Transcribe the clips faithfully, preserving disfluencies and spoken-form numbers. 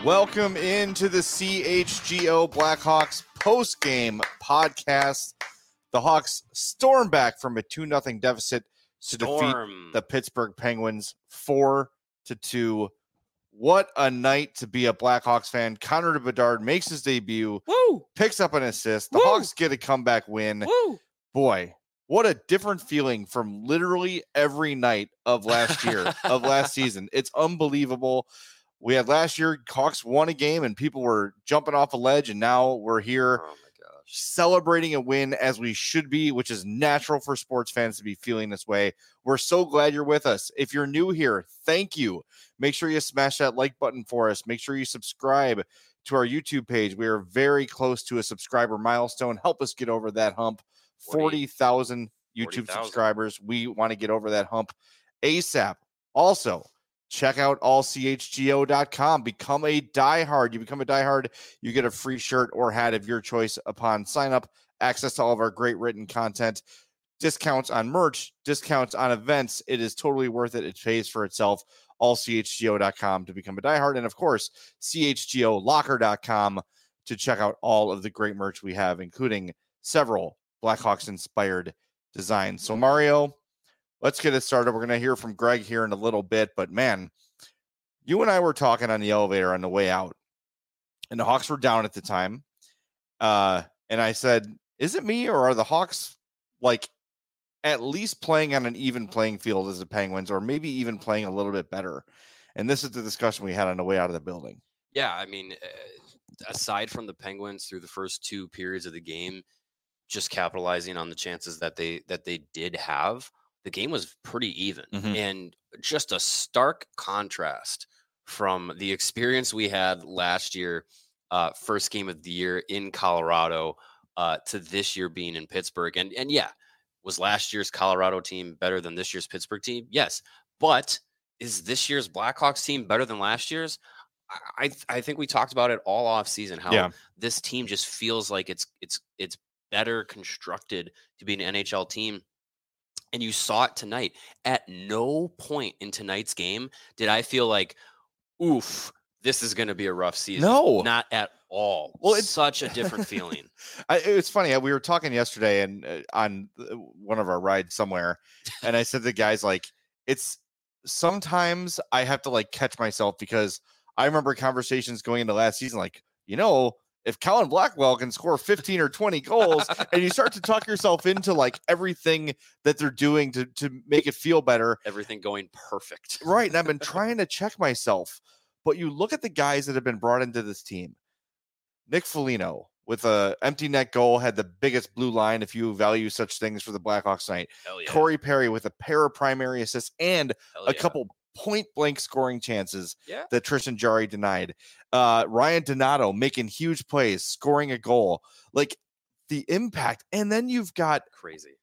Welcome into the C H G O Blackhawks post-game podcast. The Hawks storm back from a two nothing deficit to Storm. defeat the Pittsburgh Penguins four to two. What a night to be a Blackhawks fan. Connor Bedard makes his debut, Woo! picks up an assist. The Woo! Hawks get a comeback win. Woo! Boy, what a different feeling from literally every night of last year, of last season. It's unbelievable. We had last year, Hawks won a game and people were jumping off a ledge, and now we're here Oh my gosh. celebrating a win as we should be, which is natural for sports fans to be feeling this way. We're so glad you're with us. If you're new here, thank you. Make sure you smash that like button for us. Make sure you subscribe to our YouTube page. We are very close to a subscriber milestone. Help us get over that hump. forty thousand YouTube forty thousand subscribers. We want to get over that hump ASAP. Also, check out all c h g o dot com. Become a diehard. You become a diehard, you get a free shirt or hat of your choice upon sign up. Access to all of our great written content, discounts on merch, discounts on events. It is totally worth it. It pays for itself. all c h g o dot com to become a diehard. And of course, c h g o locker dot com to check out all of the great merch we have, including several Blackhawks inspired designs. So Mario, let's get it started. We're going to hear from Greg here in a little bit, but man, you and I were talking on the elevator on the way out, and the Hawks were down at the time. Uh, and I said, is it me, or are the Hawks like at least playing on an even playing field as the Penguins, or maybe even playing a little bit better? And this is the discussion we had on the way out of the building. Yeah, I mean, uh, aside from the Penguins through the first two periods of the game, just capitalizing on the chances that they that they did have, the game was pretty even. Mhm. And just a stark contrast from the experience we had last year, uh, first game of the year in Colorado, uh, to this year being in Pittsburgh. And and yeah, was last year's Colorado team better than this year's Pittsburgh team? Yes. But is this year's Blackhawks team better than last year's? I I think we talked about it all off season, how Yeah. this team just feels like it's it's it's better constructed to be an N H L team. And you saw it tonight. At no point in tonight's game did I feel like, oof, this is going to be a rough season. No. Not at all. Well, Well, it's- it's such a different feeling. I, it's funny. We were talking yesterday and uh, on uh, one of our rides somewhere, and I said to the guys, like, it's sometimes I have to like catch myself, because I remember conversations going into last season, like, you know, if Colin Blackwell can score fifteen or twenty goals, and you start to talk yourself into like everything that they're doing to to make it feel better. Everything going perfect. Right. And I've been trying to check myself, but you look at the guys that have been brought into this team. Nick Foligno with a empty net goal had the biggest blue line, if you value such things, for the Blackhawks tonight. Hell yeah. Corey Perry with a pair of primary assists and Hell a yeah. couple point blank scoring chances Yeah. that Tristan Jarry denied. Uh, Ryan Donato making huge plays, scoring a goal, like the impact. And then you've got Crazy.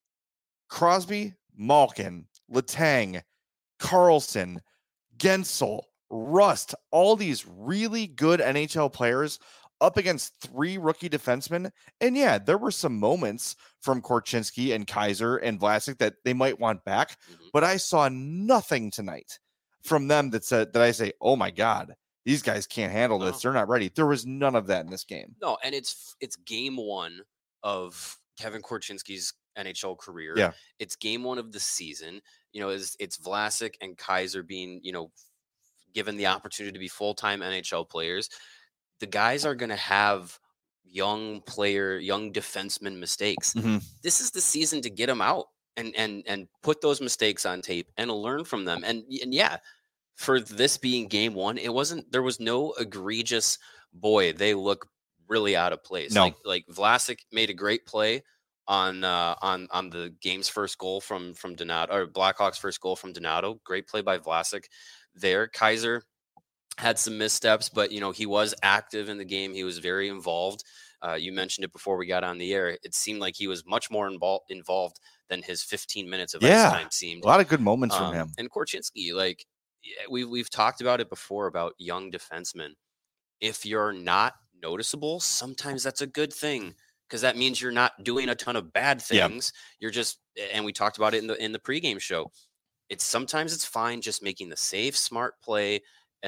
Crosby, Malkin, Letang, Carlson, Gensel, Rust, all these really good N H L players up against three rookie defensemen. And yeah, there were some moments from Korchinski and Kaiser and Vlasic that they might want back, Mhm. but I saw nothing tonight from them that said that I say, oh my God, these guys can't handle this. No. They're not ready. There was none of that in this game. No, and it's it's game one of Kevin Korchinski's N H L career. Yeah. It's game one of the season. You know, it's it's Vlasic and Kaiser being, you know, given the opportunity to be full-time N H L players. The guys are going to have young player, young defenseman mistakes. Mhm. This is the season to get them out and and and put those mistakes on tape and learn from them. And and yeah, for this being game one, it wasn't, there was no egregious, boy, they look really out of place. No. Like like Vlasic made a great play on uh on on the game's first goal from from Donato, or Blackhawks' first goal from Donato. Great play by Vlasic there. Kaiser had some missteps, but you know, he was active in the game. He was very involved. Uh, you mentioned it before we got on the air. It seemed like he was much more invol- involved than his fifteen minutes of Yeah. ice time seemed. A lot of good moments Um, from him. And Korchinski, like, yeah, we've we've talked about it before about young defensemen. If you're not noticeable, sometimes that's a good thing, because that means you're not doing a ton of bad Yeah. things. You're just, and we talked about it in the in the pregame show. It's sometimes it's fine just making the safe, smart play and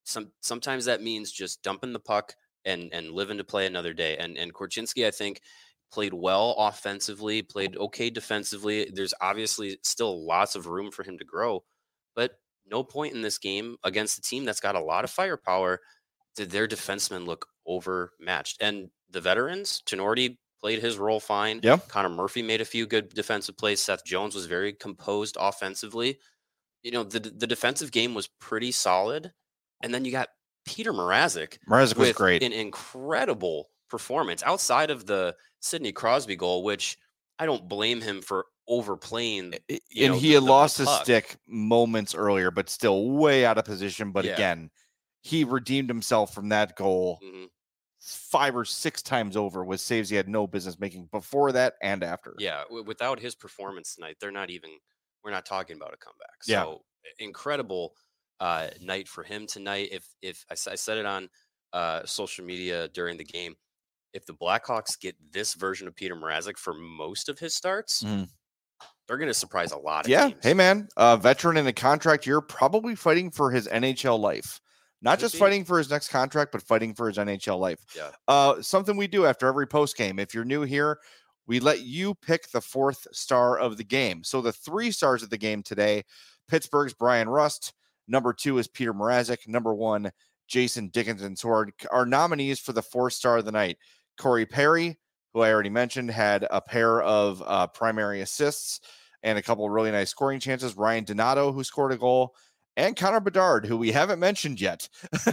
some sometimes that means just dumping the puck and and living to play another day. And and Korchinski, I think, played well offensively, played okay defensively. There's obviously still lots of room for him to grow, but no point in this game against a team that's got a lot of firepower did their defensemen look overmatched. And the veterans, Tenorti played his role fine. Yeah. Connor Murphy made a few good defensive plays. Seth Jones was very composed offensively. You know, the the defensive game was pretty solid. And then you got Peter Mrazek. Mrazek was with great. An incredible performance outside of the Sidney Crosby goal, which I don't blame him for overplaying. And you know, he the- had the- lost the his puck. stick moments earlier, but still way out of position. But Yeah. again, he redeemed himself from that goal Mhm. five or six times over with saves he had no business making before that and after. Yeah, w- without his performance tonight, they're not even. We're not talking about a comeback. Yeah. So incredible uh, night for him tonight. If if I, s- I said it on uh, social media during the game, if the Blackhawks get this version of Peter Mrazek for most of his starts, Mhm. they're going to surprise a lot of Yeah. teams. Hey, man, a veteran in a contract year, probably fighting for his N H L life. Not Could just be. fighting for his next contract, but fighting for his N H L life. Yeah. Uh, something we do after every post game. If you're new here, we let you pick the fourth star of the game. So the three stars of the game today, Pittsburgh's Brian Rust. Number two is Peter Mrazek. Number one, Jason Dickinson. So our, our nominees for the fourth star of the night, Corey Perry, who I already mentioned, had a pair of uh, primary assists and a couple of really nice scoring chances. Ryan Donato, who scored a goal, and Connor Bedard, who we haven't mentioned yet.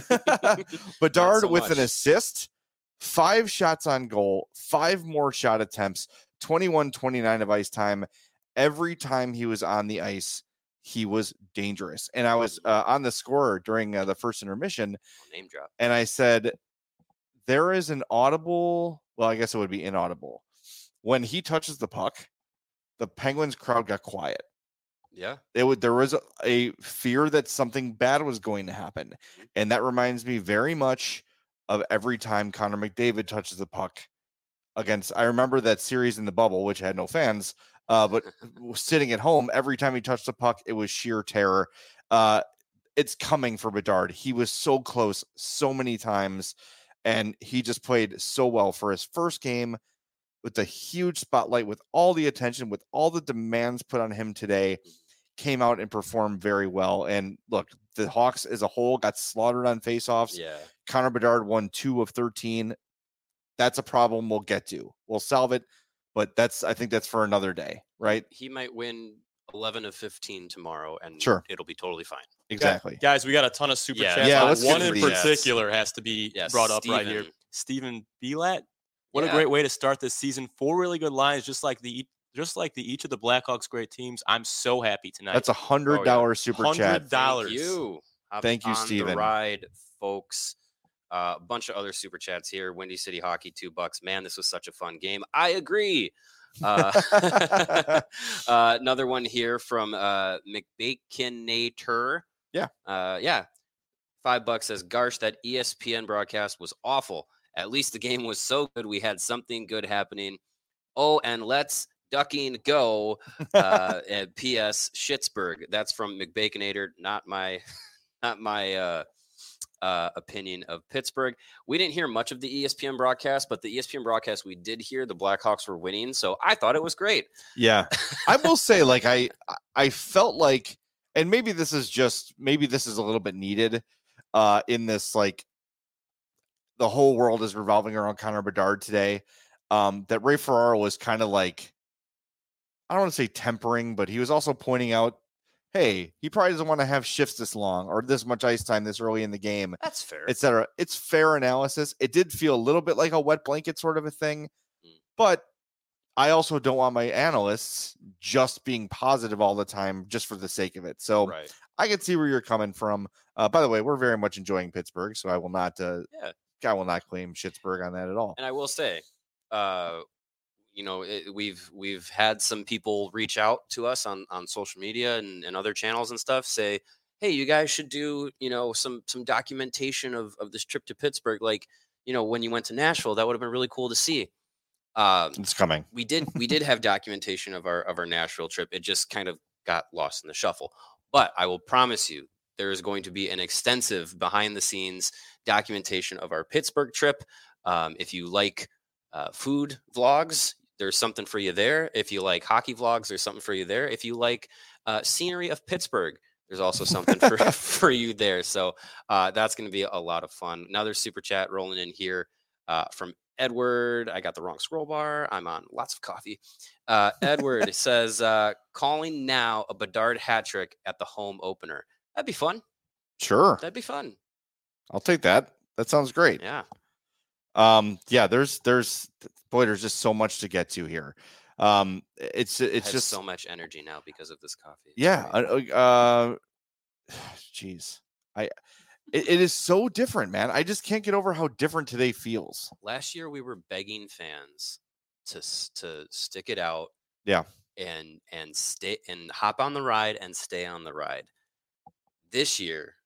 Bedard so with much. an assist, five shots on goal, five more shot attempts, twenty-one twenty-nine of ice time. Every time he was on the ice, he was dangerous. And I was uh, on the score during uh, the first intermission, Name drop. and I said, there is an audible, well, I guess it would be inaudible. When he touches the puck, the Penguins crowd got quiet. Yeah. It would, there was a, a fear that something bad was going to happen. And that reminds me very much of every time Connor McDavid touches the puck against, I remember that series in the bubble, which had no fans, uh, but sitting at home, every time he touched the puck, it was sheer terror. Uh, it's coming for Bedard. He was so close so many times, and he just played so well for his first game with the huge spotlight, with all the attention, with all the demands put on him today. Came out and performed very well. And look, the Hawks as a whole got slaughtered on faceoffs. Yeah. Connor Bedard won two of thirteen. That's a problem we'll get to. We'll solve it, but that's, I think that's for another day, right? He might win eleven of fifteen tomorrow, and Sure. it'll be totally fine. Exactly. Guys, we got a ton of super Yeah, chats. yeah, Uh, let's get One to in these. particular has to be Yeah, brought up right here. Steven. Stephen Belat. What Yeah. a great way to start this season. Four really good lines, just like the just like the each of the Blackhawks' great teams. I'm so happy tonight. That's a hundred dollar Oh, yeah. super Hundred chat. dollars. Thank you. Hop Thank you, on Steven. The ride, folks. Uh, a bunch of other super chats here. Windy City Hockey, two bucks. Man, this was such a fun game. I agree. Uh, uh, another one here from uh, McBaconator. Yeah. Uh, yeah. Five bucks says, Garsh, that E S P N broadcast was awful. At least the game was so good. We had something good happening. Oh, and let's ducking go. Uh, and P S Schittsburg. That's from McBaconator, not my, not my uh, uh, opinion of Pittsburgh. We didn't hear much of the E S P N broadcast, but the E S P N broadcast we did hear, the Blackhawks were winning, so I thought it was great. Yeah. I will say, like, I I felt like, and maybe this is just, maybe this is a little bit needed uh, in this, like, the whole world is revolving around Connor Bedard today. Um, that Ray Ferraro was kind of like, I don't want to say tempering, but he was also pointing out, hey, he probably doesn't want to have shifts this long or this much ice time this early in the game, That's fair. et cetera. It's fair analysis. It did feel a little bit like a wet blanket sort of a thing, Mm. but I also don't want my analysts just being positive all the time just for the sake of it. So right. I can see where you're coming from. Uh, by the way, we're very much enjoying Pittsburgh, so I will not, uh, Yeah. I will not claim Schittsburg on that at all. And I will say, uh, you know, it, we've we've had some people reach out to us on, on social media and, and other channels and stuff, say, hey, you guys should do, you know, some some documentation of, of this trip to Pittsburgh. Like, you know, when you went to Nashville, that would have been really cool to see. Um, It's coming. we did we did have documentation of our of our Nashville trip. It just kind of got lost in the shuffle. But I will promise you, there is going to be an extensive behind the scenes documentation of our Pittsburgh trip. Um, if you like uh, food vlogs, there's something for you there. If you like hockey vlogs, there's something for you there. If you like uh, scenery of Pittsburgh, there's also something for, for you there. So uh, that's going to be a lot of fun. Another super chat rolling in here uh, from Edward. I got the wrong scroll bar. I'm on lots of coffee. Uh, Edward says, uh, calling now a Bedard hat trick at the home opener. That'd be fun. Sure. That'd be fun. I'll take that. That sounds great. Yeah. Um, yeah, there's, there's, boy, there's just so much to get to here. Um, it's, it's just so much energy now because of this coffee. It's yeah. great. Uh, geez, I, it, it is so different, man. I just can't get over how different today feels. Last year we were begging fans to to stick it out. Yeah. And and stay and hop on the ride and stay on the ride. This year,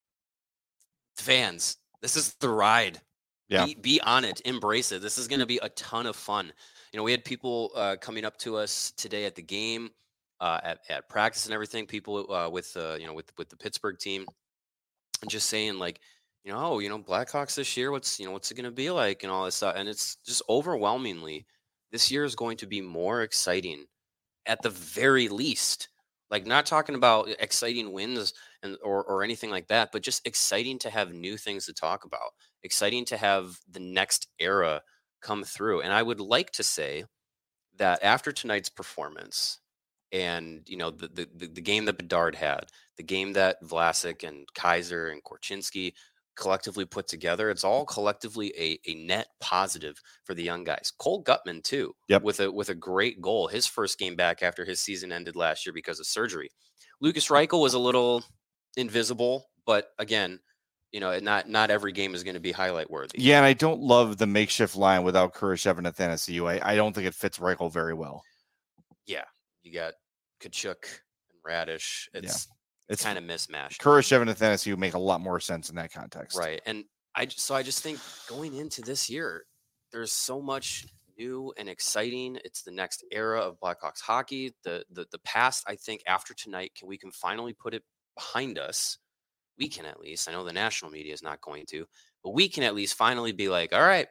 fans, this is the ride. Yeah. Be, be on it. Embrace it. This is going to be a ton of fun. You know, we had people uh, coming up to us today at the game, uh, at, at practice and everything. People uh, with, uh, you know, with, with the Pittsburgh team, and just saying like, you know, oh, you know, Blackhawks this year, what's, you know, what's it going to be like and all this stuff. And it's just overwhelmingly, this year is going to be more exciting at the very least. Like, not talking about exciting wins and or or anything like that, but just exciting to have new things to talk about. Exciting to have the next era come through. And I would like to say that after tonight's performance, and you know the the, the game that Bedard had, the game that Vlasic and Kaiser and Korchinski collectively put together, it's all collectively a, a net positive for the young guys. Cole Gutman too, yep. with a with a great goal, his first game back after his season ended last year because of surgery. Lucas Reichel was a little invisible, but again, you know, not not every game is going to be highlight worthy. Yeah, and I don't love the makeshift line without Kurashev and Athanasiou. I, I don't think it fits Reichel very well. Yeah, you got Kachuk and Radish. It's yeah. It's kind of mismatched. Kurashev and Athanasiou make a lot more sense in that context. Right. And I so I just think going into this year, there's so much new and exciting. It's the next era of Blackhawks hockey. The the the past, I think after tonight, can we can finally put it behind us. We can at least. I know the national media is not going to, but we can at least finally be like, all right,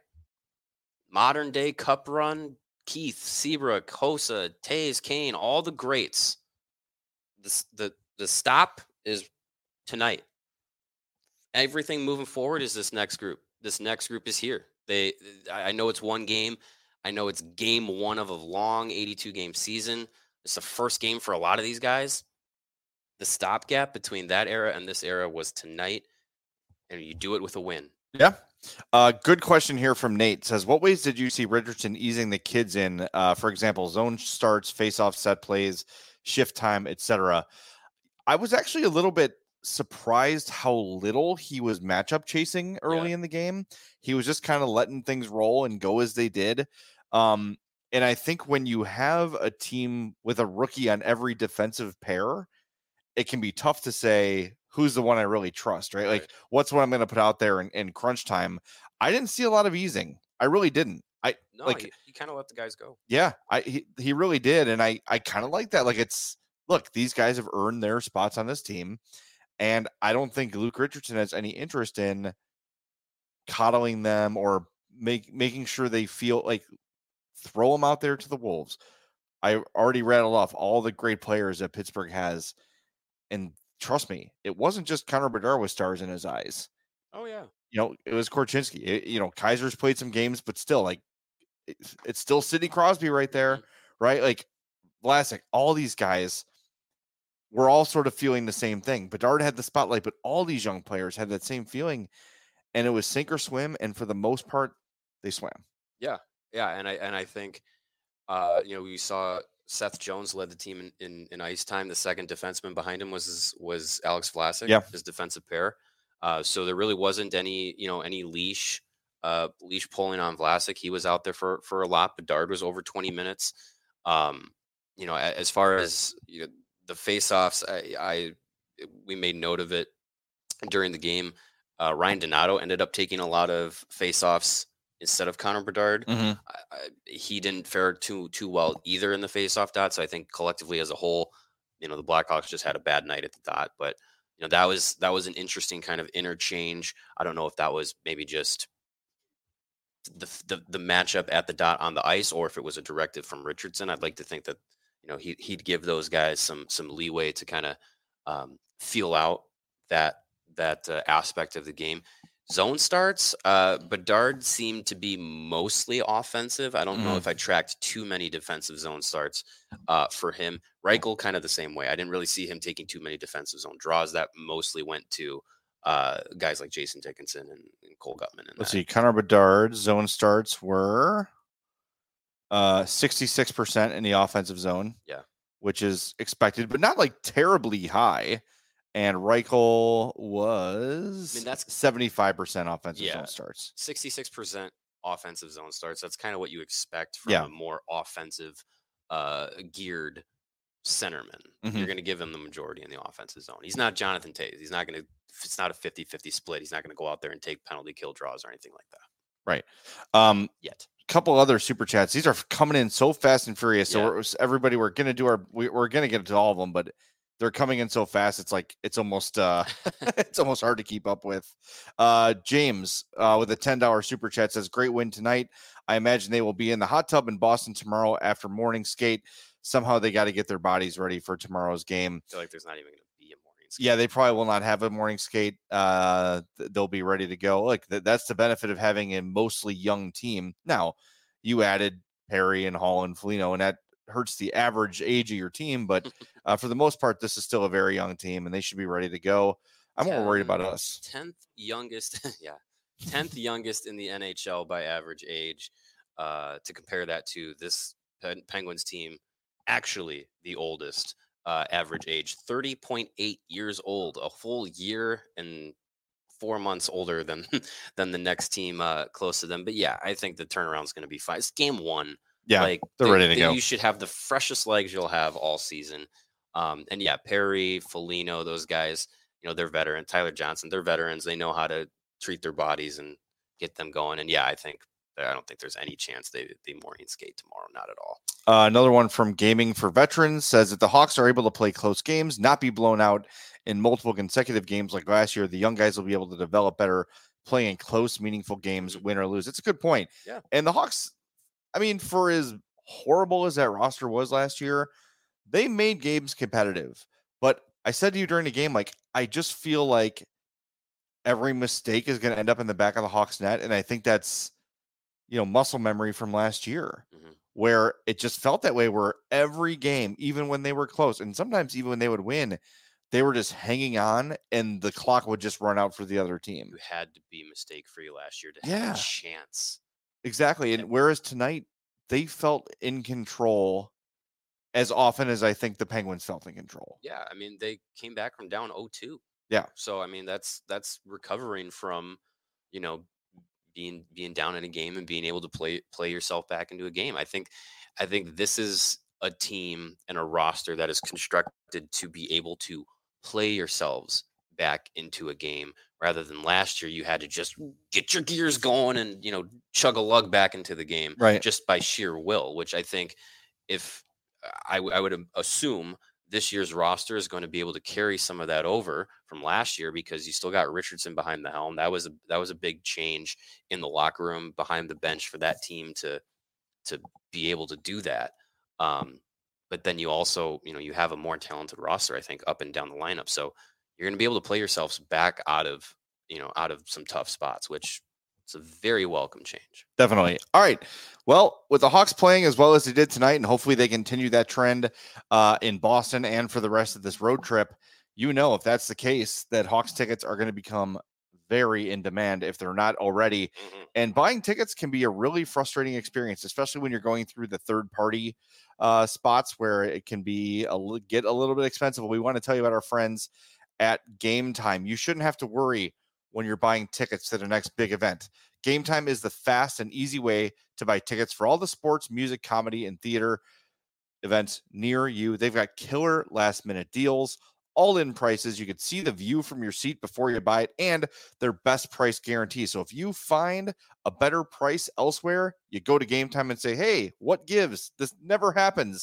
modern day cup run, Keith, Seabrook, Hossa, Taves, Kane, all the greats. The the The stop is tonight. Everything moving forward is this next group. This next group is here. They, I know it's one game. I know it's game one of a long eighty-two game season. It's the first game for a lot of these guys. The stopgap between that era and this era was tonight, and you do it with a win. Yeah. Uh, good question here from Nate. Says, what ways did you see Richardson easing the kids in? Uh, for example, zone starts, face-off set plays, shift time, et cetera. I was actually a little bit surprised how little he was matchup chasing early Yeah. in the game. He was just kind of letting things roll and go as they did. Um, and I think when you have a team with a rookie on every defensive pair, it can be tough to say who's the one I really trust, right? Like, Right. what's what I'm going to put out there in, in crunch time. I didn't see a lot of easing. I really didn't. I No, like, you, you kind of let the guys go. yeah, I he, he really did. And I, I kind of like that. Like, it's, look, these guys have earned their spots on this team. And I don't think Luke Richardson has any interest in coddling them or make making sure they feel like throw them out there to the wolves. I already rattled off all the great players that Pittsburgh has. And trust me, it wasn't just Connor Bedard with stars in his eyes. Oh, yeah. You know, it was Korchinski. It, you know, Kaiser's played some games, but still, like, it's, it's still Sidney Crosby right there, Mm-hmm. right? Like, Vlasic, all these guys were all sort of feeling the same thing. Bedard had the spotlight, but all these young players had that same feeling, and it was sink or swim. And for the most part, they swam. Yeah, yeah, and I and I think, uh, you know, we saw Seth Jones led the team in, in, in ice time. The second defenseman behind him was was Alex Vlasic, Yeah. his defensive pair. Uh, so there really wasn't any, you know, any leash, uh, leash pulling on Vlasic. He was out there for for a lot. Bedard was over twenty minutes. Um, you know, a- as far as you know, the faceoffs, I, I we made note of it during the game. Uh, Ryan Donato ended up taking a lot of faceoffs instead of Connor Bedard. Mm-hmm. I, I, he didn't fare too too well either in the faceoff dot. So I think collectively as a whole, you know, the Blackhawks just had a bad night at the dot. But you know, that was that was an interesting kind of interchange. I don't know if that was maybe just the the, the matchup at the dot on the ice, or if it was a directive from Richardson. I'd like to think that, you know, he he'd give those guys some some leeway to kind of um, feel out that that uh, aspect of the game. Zone starts, uh, Bedard seemed to be mostly offensive. I don't know Mhm. if I tracked too many defensive zone starts uh, for him. Reichel kind of the same way. I didn't really see him taking too many defensive zone draws. That mostly went to uh, guys like Jason Dickinson and, and Cole Gutman. And Let's that. see. Connor Bedard's zone starts were uh, sixty-six percent in the offensive zone. Yeah. Which is expected, but not like terribly high. And Reichel was I mean, that's seventy-five percent offensive yeah, zone starts. sixty-six percent offensive zone starts. That's kind of what you expect from Yeah. a more offensive uh, geared centerman. Mhm. You're going to give him the majority in the offensive zone. He's not Jonathan Toews. He's not going to, it's not a fifty-fifty split. He's not going to go out there and take penalty kill draws or anything like that. Right. Um, Yet. Couple other super chats. These are coming in so fast and furious. So Yeah. we're, everybody, we're going to do our, we, we're going to get to all of them, but they're coming in so fast. It's like, it's almost, uh, it's almost hard to keep up with. Uh, James, uh, with a ten dollars super chat says, great win tonight. I imagine they will be in the hot tub in Boston tomorrow after morning skate. Somehow they got to get their bodies ready for tomorrow's game. I feel like there's not even going to be a morning skate. Yeah, they probably will not have a morning skate. Uh, th- they'll be ready to go. Like th- that's the benefit of having a mostly young team. Now, you added Perry and Hall and Foligno, and that hurts the average age of your team. But uh, for the most part, this is still a very young team, and they should be ready to go. I'm more worried about us. tenth youngest, yeah, tenth youngest in the N H L by average age. Uh, to compare that to this Pen- Penguins team, actually the oldest uh, average age, thirty point eight years old, a full year and four months older than than the next team uh, close to them. But yeah, I think the turnaround is going to be fine. It's game one. Yeah, like they're they- ready to they- go. You should have the freshest legs you'll have all season. Um, and yeah, Perry, Foligno, those guys, you know, they're veteran. Tyler Johnson, they're veterans. They know how to treat their bodies and get them going. And yeah, I think I don't think there's any chance they they morning skate tomorrow. Not at all. Uh, another one from Gaming for Veterans says that the Hawks are able to play close games, not be blown out in multiple consecutive games like last year. The young guys will be able to develop better playing close, meaningful games, win or lose. It's a good point. Yeah. And the Hawks, I mean, for as horrible as that roster was last year, they made games competitive. But I said to you during the game, like, I just feel like every mistake is going to end up in the back of the Hawks net. And I think that's, you know, muscle memory from last year. Mhm. Where it just felt that way, where every game, even when they were close, and sometimes even when they would win, they were just hanging on and the clock would just run out for the other team. You had to be mistake free last year to Yeah. have a chance. Exactly. And whereas tonight they felt in control as often as I think the Penguins felt in control. Yeah, I mean, they came back from down oh two. Yeah. So I mean, that's that's recovering from, you know, being being down in a game and being able to play play yourself back into a game. I think I think this is a team and a roster that is constructed to be able to play yourselves back into a game, rather than last year you had to just get your gears going and, you know, chug a lug back into the game Right. just by sheer will, which I think if I, w- I would am- assume this year's roster is going to be able to carry some of that over from last year, because you still got Richardson behind the helm. That was a that was a big change in the locker room behind the bench for that team to to be able to do that. Um, but then you also, you know, you have a more talented roster, I think, up and down the lineup. So you're going to be able to play yourselves back out of, you know, out of some tough spots, which it's a very welcome change. Definitely. All right. Well, with the Hawks playing as well as they did tonight, and hopefully they continue that trend uh, in Boston and for the rest of this road trip, you know, if that's the case, that Hawks tickets are going to become very in demand if they're not already. Mm-hmm. And buying tickets can be a really frustrating experience, especially when you're going through the third party uh, spots where it can be a li- get a little bit expensive. We want to tell you about our friends at Game Time. You shouldn't have to worry when you're buying tickets to the next big event. Game Time is the fast and easy way to buy tickets for all the sports, music, comedy, and theater events near you. They've got killer last minute deals, all in prices. You can see the view from your seat before you buy it, and their best price guarantee. So if you find a better price elsewhere, you go to Game Time and say, hey, what gives? This never happens.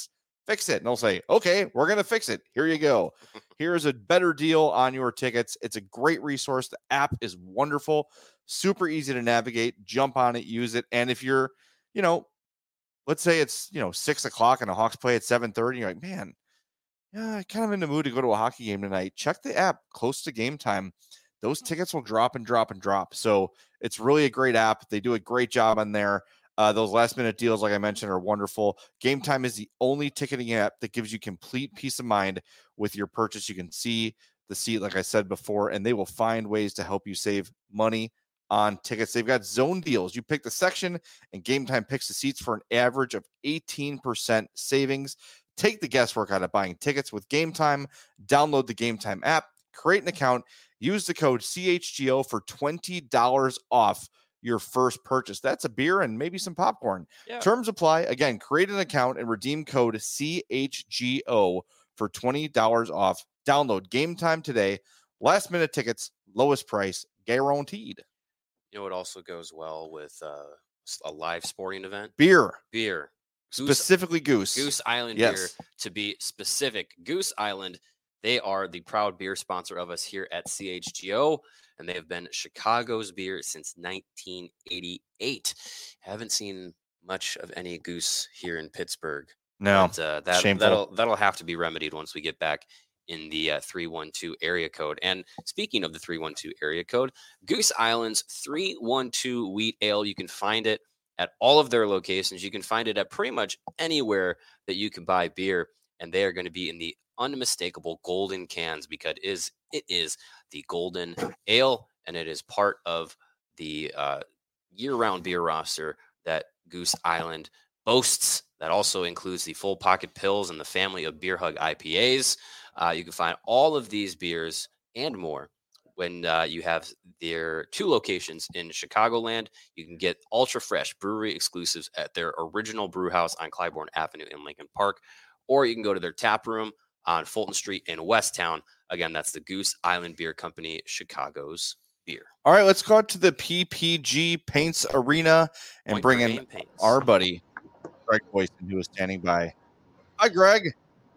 fix it. And they'll say, okay, we're going to fix it. Here you go. Here's a better deal on your tickets. It's a great resource. The app is wonderful, super easy to navigate. Jump on it, use it. And if you're, you know, let's say it's, you know, six o'clock and the Hawks play at seven thirty, you're like, man, yeah, I'm kind of in the mood to go to a hockey game tonight. Check the app close to game time. Those tickets will drop and drop and drop. So it's really a great app. They do a great job on there. Uh, those last minute deals, like I mentioned, are wonderful. Game Time is the only ticketing app that gives you complete peace of mind with your purchase. You can see the seat, like I said before, and they will find ways to help you save money on tickets. They've got zone deals. You pick the section, and Game Time picks the seats for an average of eighteen percent savings. Take the guesswork out of buying tickets with Game Time. Download the Game Time app, create an account, use the code C H G O for twenty dollars off your first purchase. That's a beer and maybe some popcorn. Yeah. Terms apply. Again, create an account and redeem code C H G O for twenty dollars off. Download Game Time today. Last minute tickets, lowest price, guaranteed. You know what also goes well with uh, a live sporting event? Beer. Beer. Goose, Specifically Goose. Goose Island Yes. beer, to be specific. Goose Island, they are the proud beer sponsor of us here at C H G O, and they have been Chicago's beer since nineteen eighty-eight. Haven't seen much of any Goose here in Pittsburgh. No, But, uh, that, shameful. that'll that'll have to be remedied once we get back in the uh, three one two area code. And speaking of the three one two area code, Goose Island's three one two wheat ale, you can find it at all of their locations. You can find it at pretty much anywhere that you can buy beer, and they are going to be in the unmistakable golden cans because it is it is the golden ale, and it is part of the uh, year-round beer roster that Goose Island boasts. That also includes the full pocket pills and the family of Beer Hug I P As. Uh, you can find all of these beers and more when uh, you have their two locations in Chicagoland. You can get ultra fresh brewery exclusives at their original brew house on Clybourne Avenue in Lincoln Park, or you can go to their tap room on Fulton Street in Westtown. Again, that's the Goose Island Beer Company, Chicago's beer. All right, let's go out to the P P G Paints Arena and Point bring in Germain Paints. our buddy, Greg Boyson, who is standing by. Hi, Greg.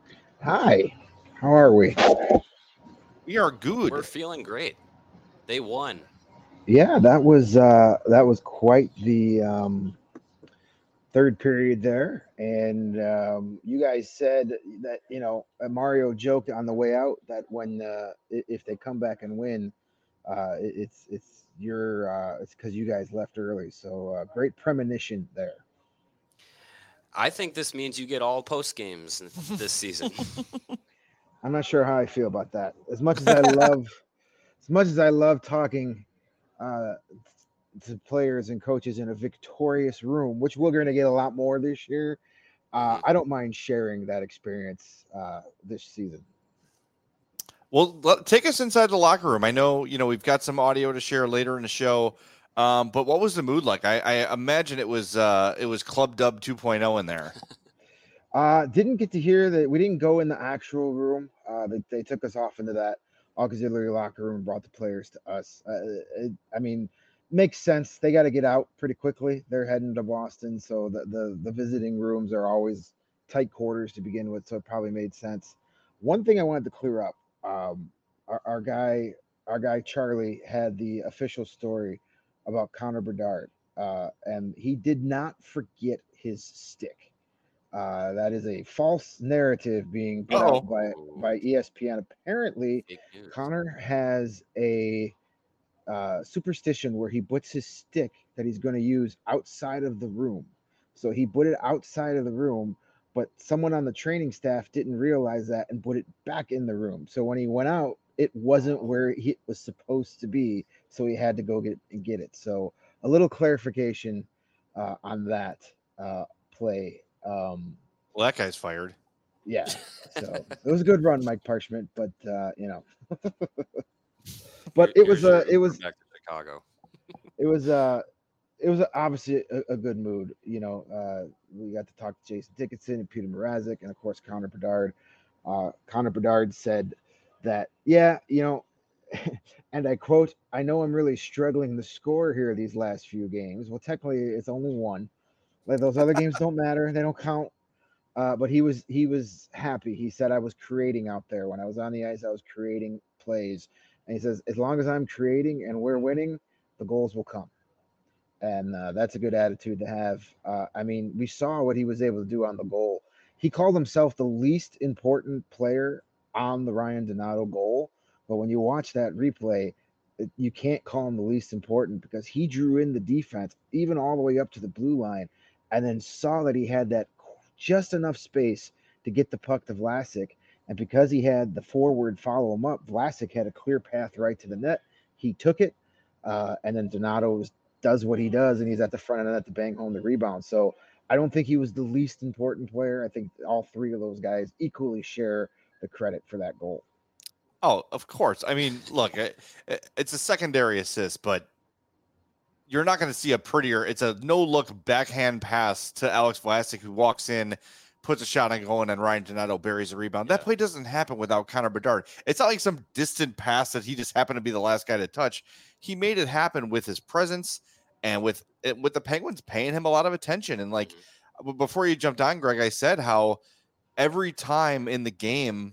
Hi, how are we? We are good. We're feeling great. They won. Yeah, that was uh, that was quite the um, third period there, and um, you guys said that you know Mario joked on the way out that when uh, if they come back and win, uh, it's it's your uh, it's because you guys left early. So uh, great premonition there. I think this means you get all post games this season. I'm not sure how I feel about that. As much as I love, as much as I love talking uh, to players and coaches in a victorious room, which we're going to get a lot more this year, uh, I don't mind sharing that experience uh, this season. Well, let, take us inside the locker room. I know, you know, we've got some audio to share later in the show, um, but what was the mood like? I, I imagine it was uh, it was Club Dub two point oh in there. Uh, didn't get to hear that. We didn't go in the actual room. Uh, they, they took us off into that auxiliary locker room and brought the players to us. Uh, it, I mean, makes sense. They got to get out pretty quickly. They're heading to Boston, so the, the the visiting rooms are always tight quarters to begin with, so it probably made sense. One thing I wanted to clear up: um, our, our guy, our guy Charlie, had the official story about Connor Bedard, uh, and he did not forget his stick. Uh, that is a false narrative being put Uh-oh. out by, by E S P N. Apparently, Fake news. Connor has a uh, superstition where he puts his stick that he's going to use outside of the room. So he put it outside of the room, but someone on the training staff didn't realize that and put it back in the room. So when he went out, it wasn't where it was supposed to be. So he had to go get and get it. So a little clarification uh, on that uh, play. Um, Well, that guy's fired. yeah, so it was a good run, Mike Parchment, but uh, you know, but it was Here's a, your- it was, back to Chicago. it was uh it was obviously a, a good mood. You know, uh, we got to talk to Jason Dickinson and Peter Mrazek, and of course Connor Bedard. Uh, Connor Bedard said that, yeah, you know, and I quote, "I know I'm really struggling to score here these last few games." Well, technically, it's only one. Like those other games don't matter; they don't count. Uh, but he was he was happy. He said, I was creating out there. When I was on the ice, I was creating plays. And he says, as long as I'm creating and we're winning, the goals will come. And uh, that's a good attitude to have. Uh, I mean, we saw what he was able to do on the goal. He called himself the least important player on the Ryan Donato goal. But when you watch that replay, it, you can't call him the least important because he drew in the defense, even all the way up to the blue line, and then saw that he had that just enough space to get the puck to Vlasic. And because he had the forward follow him up, Vlasic had a clear path right to the net. He took it, uh, and then Donato was does what he does, and he's at the front of the net to bang home the rebound. So I don't think he was the least important player. I think all three of those guys equally share the credit for that goal. Oh, of course. I mean, look, it, it's a secondary assist, but you're not going to see a prettier. It's a no-look backhand pass to Alex Vlasic, who walks in, puts a shot on goal, and then Ryan Donato buries a rebound. Yeah. That play doesn't happen without Connor Bedard. It's not like some distant pass that he just happened to be the last guy to touch. He made it happen with his presence and with with the Penguins paying him a lot of attention. And like mm-hmm. before you jumped on, Greg, I said how every time in the game,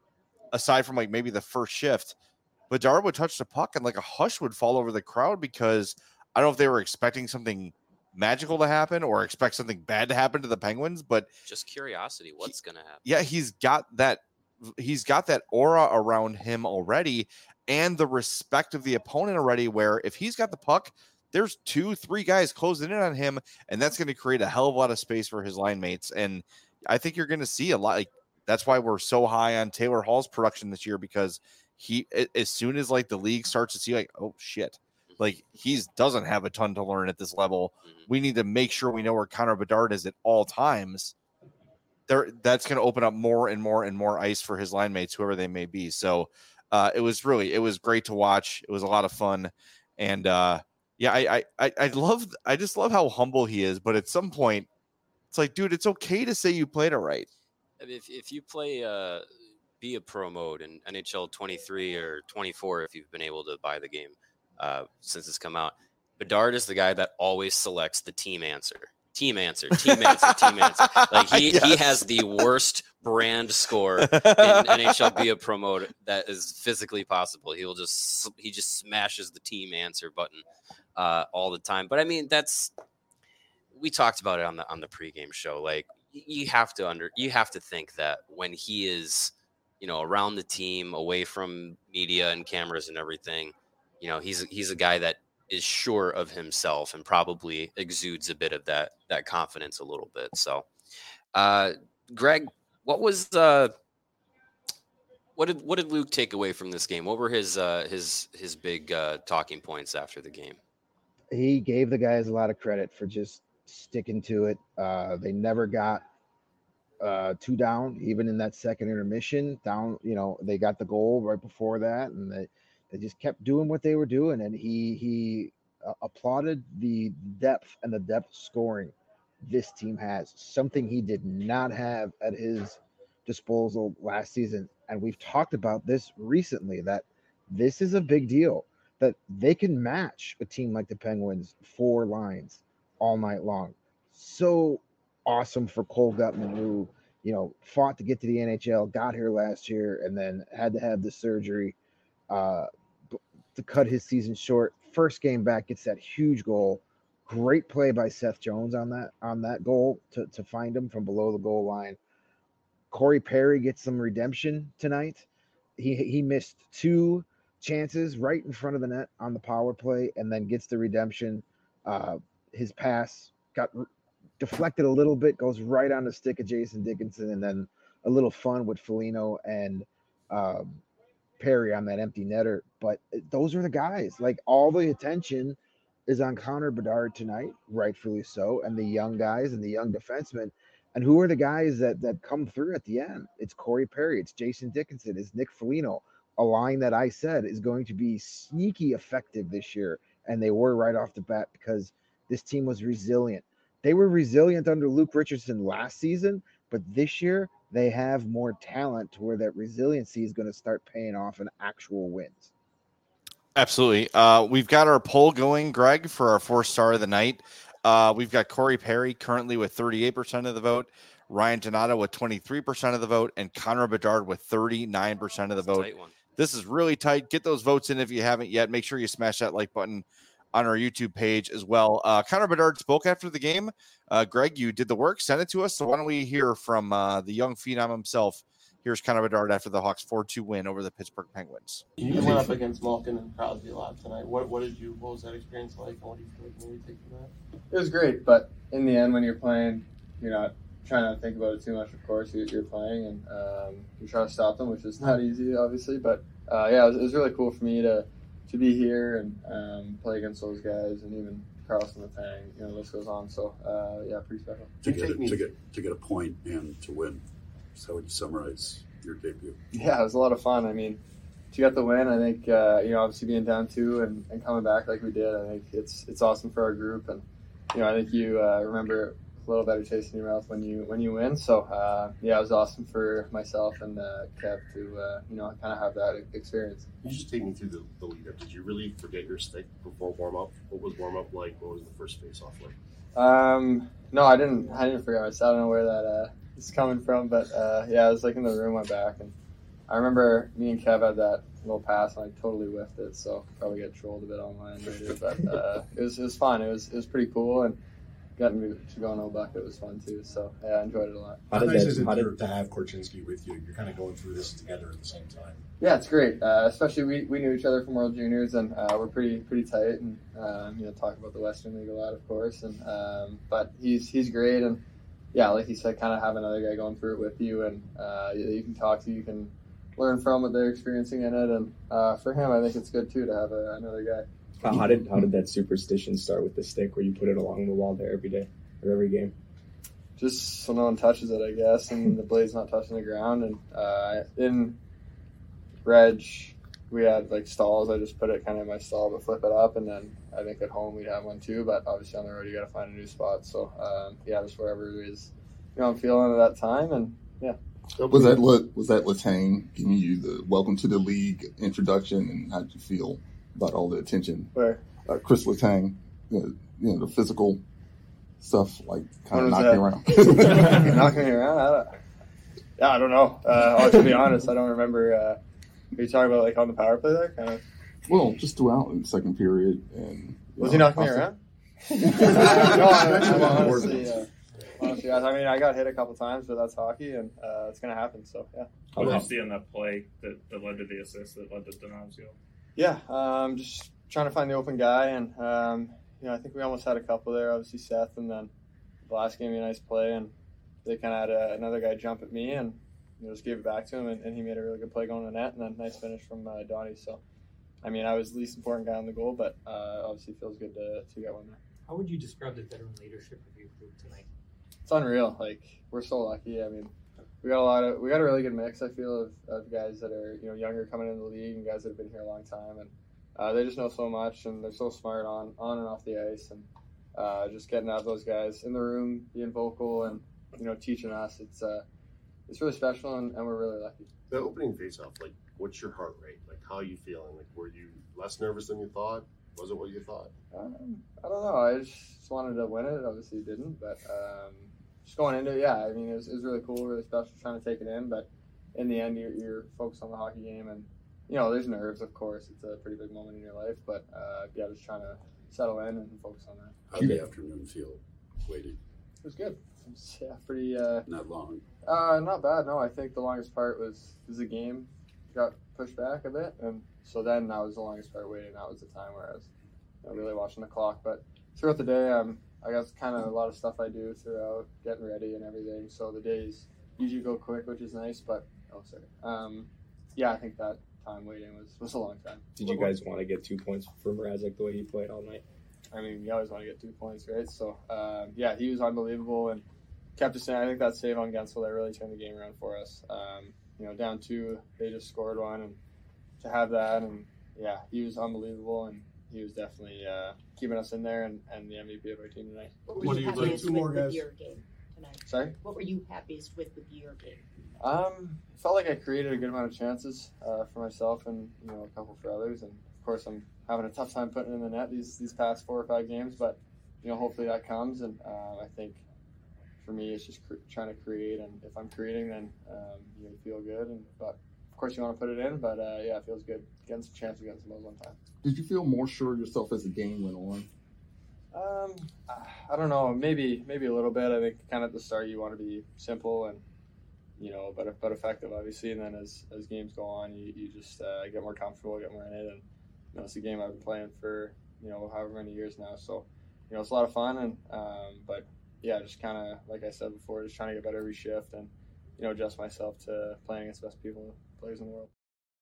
aside from like maybe the first shift, Bedard would touch the puck and like a hush would fall over the crowd because I don't know if they were expecting something magical to happen or expect something bad to happen to the Penguins, but just curiosity, what's going to happen? Yeah, he's got that he's got that aura around him already and the respect of the opponent already, where if he's got the puck, there's two, three guys closing in on him, and that's going to create a hell of a lot of space for his line mates. And I think you're going to see a lot. Like, that's why we're so high on Taylor Hall's production this year, because he, as soon as like the league starts to see like, oh shit, like he's doesn't have a ton to learn at this level. We need to make sure we know where Connor Bedard is at all times. There, that's going to open up more and more and more ice for his line mates, whoever they may be. So uh, it was really, it was great to watch. It was a lot of fun. And uh, yeah, I, I, I love, I just love how humble he is. But at some point, it's like, dude, it's okay to say you played it right. I mean, if if you play uh, be a pro mode in N H L twenty-three or twenty-four, if you've been able to buy the game uh, since it's come out, Bedard is the guy that always selects the team answer. Team answer, team answer, team answer. Like he, yes. he has the worst brand score in N H L be a pro mode that is physically possible. He will just he just smashes the team answer button uh, all the time. But I mean, that's we talked about it on the on the pregame show. Like you have to under you have to think that when he is, you know, around the team, away from media and cameras and everything, you know, he's he's a guy that is sure of himself and probably exudes a bit of that that confidence a little bit. So, uh, Greg, what was uh, what did what did Luke take away from this game? What were his uh, his his big uh, talking points after the game? He gave the guys a lot of credit for just sticking to it. Uh, they never got uh, two down, even in that second intermission. Down, you know, they got the goal right before that, and they. They just kept doing what they were doing, and he he uh, applauded the depth and the depth scoring this team has, something he did not have at his disposal last season. And we've talked about this recently, that this is a big deal, that they can match a team like the Penguins, four lines all night long. So awesome for Cole Guttman, who, you know, fought to get to the N H L, got here last year, and then had to have the surgery uh to cut his season short. First game back, gets that huge goal. Great play by Seth Jones on that on that goal to, to find him from below the goal line. Corey Perry gets some redemption tonight. He he missed two chances right in front of the net on the power play, and then gets the redemption. Uh, his pass got re- deflected a little bit, goes right on the stick of Jason Dickinson, and then a little fun with Foligno and um, Perry on that empty netter. But those are the guys. Like, all the attention is on Connor Bedard tonight, rightfully so, and the young guys and the young defensemen. And who are the guys that that come through at the end? It's Corey Perry, it's Jason Dickinson, it's Nick Foligno, a line that I said is going to be sneaky effective this year, and they were right off the bat because this team was resilient. They were resilient under Luke Richardson last season, but this year they have more talent to where that resiliency is going to start paying off in actual wins. Absolutely. Uh, we've got our poll going, Greg, for our four star of the night. Uh, we've got Corey Perry currently with thirty-eight percent of the vote, Ryan Donato with twenty-three percent of the vote, and Connor Bedard with thirty-nine percent of the vote. Tight one. This is really tight. Get those votes in if you haven't yet. Make sure you smash that like button on our YouTube page as well. Uh, Connor Bedard spoke after the game. Uh, Greg, you did the work. Send it to us. So why don't we hear from uh, the young phenom himself? Here's Connor Bedard after the Hawks four two win over the Pittsburgh Penguins. You went up against Malkin and Crosby a lot tonight. What what did you? What was that experience like? And what do you feel like maybe take from that? It was great, but in the end, when you're playing, you're not trying not to think about it too much. Of course, you're, you're playing, and um, you try to stop them, which is not easy, obviously. But uh, yeah, it was, it was really cool for me to to be here and um, play against those guys, and even Carlson Letang. You know, the list goes on. So uh, yeah, pretty special. To get, a, to get to get a point and to win. So how would you summarize your debut? Yeah, it was a lot of fun. I mean, to get the win, I think uh, you know, obviously being down two and, and coming back like we did, I think it's it's awesome for our group, and you know, I think you uh, remember a little better taste in your mouth when you when you win. So uh, yeah, it was awesome for myself and uh, Kev to uh, you know, kind of have that experience. Can you just take me through the, the lead up? Did you really forget your stick before warm up? What was warm up like? What was the first face off like? Um, no, I didn't. I didn't forget myself. I don't know where that uh, is coming from, but uh, yeah, I was like in the room, went back, and I remember me and Kev had that little pass, and I totally whiffed it. So probably get trolled a bit online later, but uh, it was it was fun. It was it was pretty cool, and getting to go no bucket was fun too. So yeah, I enjoyed it a lot. How, how nice is it how did, to have Korchinski with you? You're kind of going through this together at the same time. Yeah, it's great. Uh, especially we, we knew each other from World Juniors, and uh, we're pretty pretty tight, and um, you know, talk about the Western League a lot, of course. And um, but he's he's great, and yeah, like you said, kind of have another guy going through it with you, and uh, you, you can talk to, you can learn from what they're experiencing in it, and uh, for him, I think it's good too to have a, another guy. How, how did how did that superstition start with the stick, where you put it along the wall there every day or every game? Just so no one touches it, I guess, and the blade's not touching the ground. And uh, in Reg, we had like stalls. I just put it kind of in my stall, but flip it up, and then I think at home we'd have one too. But obviously on the road, you got to find a new spot. So um, yeah, just wherever it is, you know, I'm feeling at that time, and yeah. Was that what was that Letang giving you the welcome to the league introduction, and how did you feel about all the attention? Where uh, Chris Letang, you know, the physical stuff, like kind of knocking that? around. Knocking me around? I don't, yeah, I don't know. Uh, to be honest, I don't remember. Uh, are you talking about like on the power play there? Kind of. Well, just throughout in the second period, and was know, he knocking me around? no, I, I'm honestly. Uh, Honestly, I mean, I got hit a couple times, but that's hockey, and uh, it's going to happen. So, yeah. What did you see on that play that, that led to the assist, that led to Donato's goal? Yeah, um, just trying to find the open guy, and um, you know, I think we almost had a couple there. Obviously, Seth, and then the last game, a nice play, and they kind of had a, another guy jump at me, and you know, just gave it back to him, and, and he made a really good play going to the net, and then nice finish from uh, Donnie. So, I mean, I was the least important guy on the goal, but uh, obviously, it feels good to to get one there. How would you describe the veteran leadership of your group tonight? It's unreal. Like, we're so lucky. I mean, we got a lot of we got a really good mix, I feel, of, of guys that are, you know, younger coming into the league, and guys that have been here a long time, and uh, they just know so much, and they're so smart on on and off the ice, and uh, just getting out those guys in the room, being vocal, and you know, teaching us. It's uh, it's really special, and, and we're really lucky. The opening faceoff, like, what's your heart rate? Like, how are you feeling? Like, were you less nervous than you thought? Was it what you thought? Um, I don't know. I just wanted to win it. Obviously, didn't, but. Um, Just going into it, yeah, I mean, it was, it was really cool, really special trying to take it in, but in the end, you're, you're focused on the hockey game, and, you know, there's nerves, of course. It's a pretty big moment in your life, but, uh, yeah, just trying to settle in and focus on that. How did the afternoon feel waiting? It was good. It was, yeah, pretty... Uh, not long? Uh, not bad, no. I think the longest part was, was the game got pushed back a bit, and so then that was the longest part waiting. That was the time where I was, you know, really watching the clock, but throughout the day, um, I got kind of a lot of stuff I do throughout getting ready and everything. So the days usually go quick, which is nice. But oh, sorry. Um, yeah, I think that time waiting was, was a long time. Did you guys want to get two points for Mrazek the way he played all night? I mean, you always want to get two points, right? So um, yeah, he was unbelievable and kept us in. I think that save on Gensel that really turned the game around for us. Um, you know, down two, they just scored one, and to have that, and yeah, he was unbelievable, and he was definitely uh, keeping us in there and, and the M V P of our team tonight. What were what you happiest with with your game tonight? Sorry? What were you happiest with with your game? Um, I felt like I created a good amount of chances uh, for myself and, you know, a couple for others. And, of course, I'm having a tough time putting it in the net these, these past four or five games. But, you know, hopefully that comes. And uh, I think for me, it's just cr- trying to create. And if I'm creating, then um, you feel good. And but of course, you want to put it in. But uh, yeah, it feels good. Getting some chance against the Mo's one time. Did you feel more sure of yourself as the game went on? Um, I don't know. Maybe maybe a little bit. I think kind of at the start you want to be simple and you know, but but effective, obviously. And then as as games go on, you you just uh, get more comfortable, get more in it. And you know, it's a game I've been playing for you know however many years now. So you know, it's a lot of fun. And um, but yeah, just kind of like I said before, just trying to get better every shift and you know adjust myself to playing against the best people, players in the world.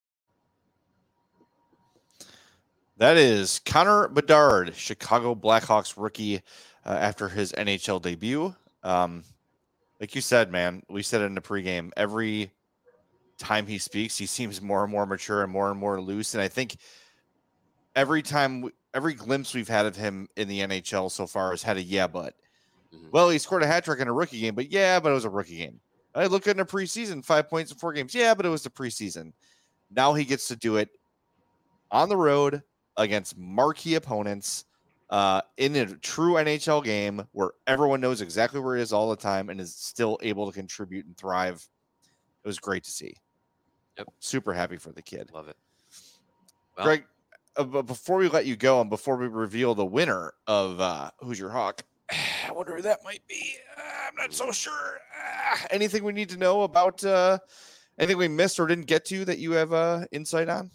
That is Connor Bedard, Chicago Blackhawks rookie uh, after his N H L debut. Um, like you said, man, we said it in the pregame. Every time he speaks, he seems more and more mature and more and more loose. And I think every time, we, every glimpse we've had of him in the N H L so far has had a yeah, but. Mm-hmm. Well, he scored a hat trick in a rookie game, but yeah, but it was a rookie game. I look at in a preseason, five points in four games. Yeah, but it was the preseason. Now he gets to do it on the road against marquee opponents uh, in a true N H L game where everyone knows exactly where he is all the time and is still able to contribute and thrive. It was great to see. Yep. Super happy for the kid. Love it. Well, Greg, uh, before we let you go and before we reveal the winner of uh, Who's Your Hawk, I wonder who that might be. Uh, I'm not so sure. Uh, anything we need to know about uh, anything we missed or didn't get to that you have uh, insight on?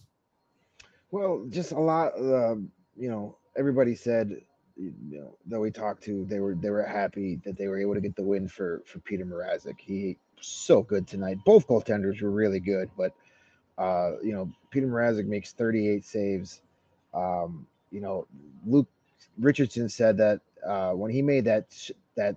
Well, just a lot. Uh, you know, everybody said, you know, that we talked to, they were they were happy that they were able to get the win for for Peter Mrazek. He so good tonight. Both goaltenders were really good, but uh, you know, Peter Mrazek makes thirty-eight saves. Um, you know, Luke Richardson said that uh, when he made that that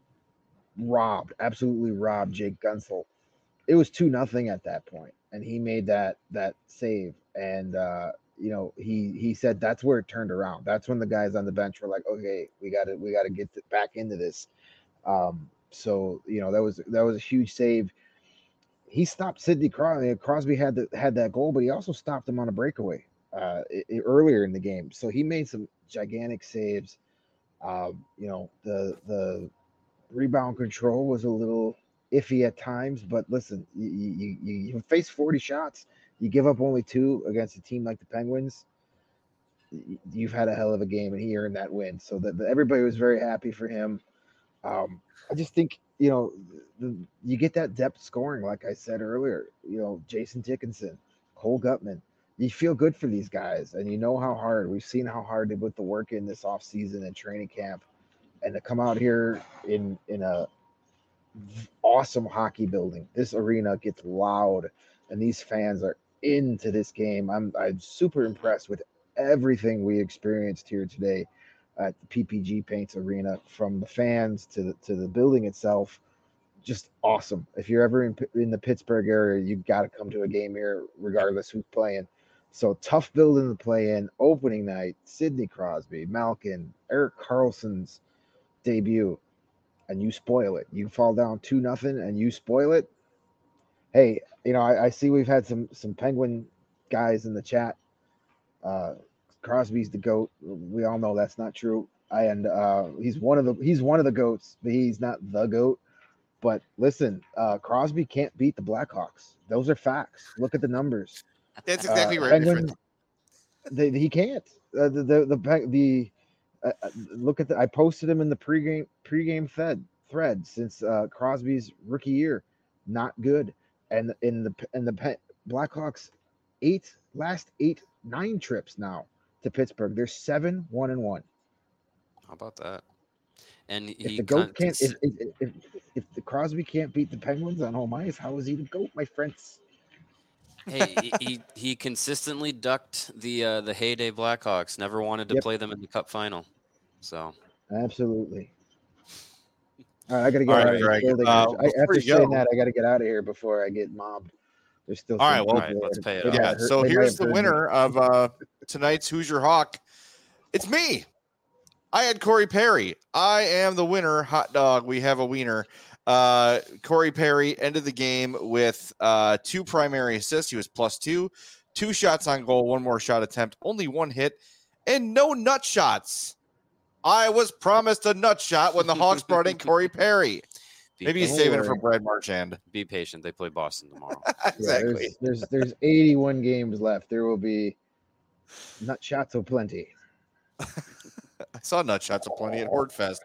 robbed, absolutely robbed Jake Gunsel, it was two nothing at that point, and he made that that save. And uh, you know, he he said that's where it turned around. That's when the guys on the bench were like, okay, we got to we got to get back into this. Um, so you know, that was that was a huge save. He stopped Sidney Crosby. Crosby had the, had that goal, but he also stopped him on a breakaway uh, it, earlier in the game. So he made some gigantic saves. Um, you know, the the rebound control was a little iffy at times, but listen, you you, you, you face forty shots. You give up only two against a team like the Penguins. You've had a hell of a game, and he earned that win. So that everybody was very happy for him. Um, I just think, you know, the, you get that depth scoring, like I said earlier. You know, Jason Dickinson, Cole Gutman. You feel good for these guys, and you know how hard. We've seen how hard they put the work in this offseason and training camp, and to come out here in in a awesome hockey building. This arena gets loud, and these fans are into this game. I'm I'm super impressed with everything we experienced here today at the P P G Paints Arena, from the fans to the to the building itself. Just awesome. If you're ever in in the Pittsburgh area, you got to come to a game here, regardless who's playing. So tough building to play in. Opening night, Sidney Crosby, Malkin, Erik Karlsson's debut, and you spoil it. You fall down two nothing, and you spoil it. Hey, you know, I, I see we've had some some Penguin guys in the chat. Uh, Crosby's the GOAT. We all know that's not true. I, and uh, he's one of the he's one of the GOATs, but he's not the GOAT. But listen, uh, Crosby can't beat the Blackhawks. Those are facts. Look at the numbers. That's exactly uh, right. Penguins, they, he can't. Uh, the the the, the uh, look at the. I posted him in the pregame pregame fed thread since uh, Crosby's rookie year. Not good. And in the in the Blackhawks, eight last eight nine trips now to Pittsburgh. They're seven one and one. How about that? And if he the GOAT con- can't, if, if, if if the Crosby can't beat the Penguins on home ice, how is he the GOAT, my friends? hey, he, he he consistently ducked the uh, the heyday Blackhawks. Never wanted to Yep. play them in the Cup final. So Absolutely. All right, I got to get All out right, of this Greg, building. uh, I, before after you saying go- that, I got to get out of here before I get mobbed. There's still All some right, well, people let's that- pay it they off. might Yeah. have heard- So they might here's have the heard me. winner of uh, tonight's Who's Your Hawk. It's me. I had Corey Perry. I am the winner. Hot dog. We have a wiener. Uh, Corey Perry ended the game with uh, two primary assists. He was plus two, two shots on goal, one more shot attempt, only one hit, and no nut shots. I was promised a nut shot when the Hawks brought in Corey Perry. Be Maybe he's patient. saving it for Brad Marchand. Be patient. They play Boston tomorrow. Exactly. Yeah, there's, there's there's eighty-one games left. There will be nut shots aplenty. I saw nut shots aplenty at Horde Fest.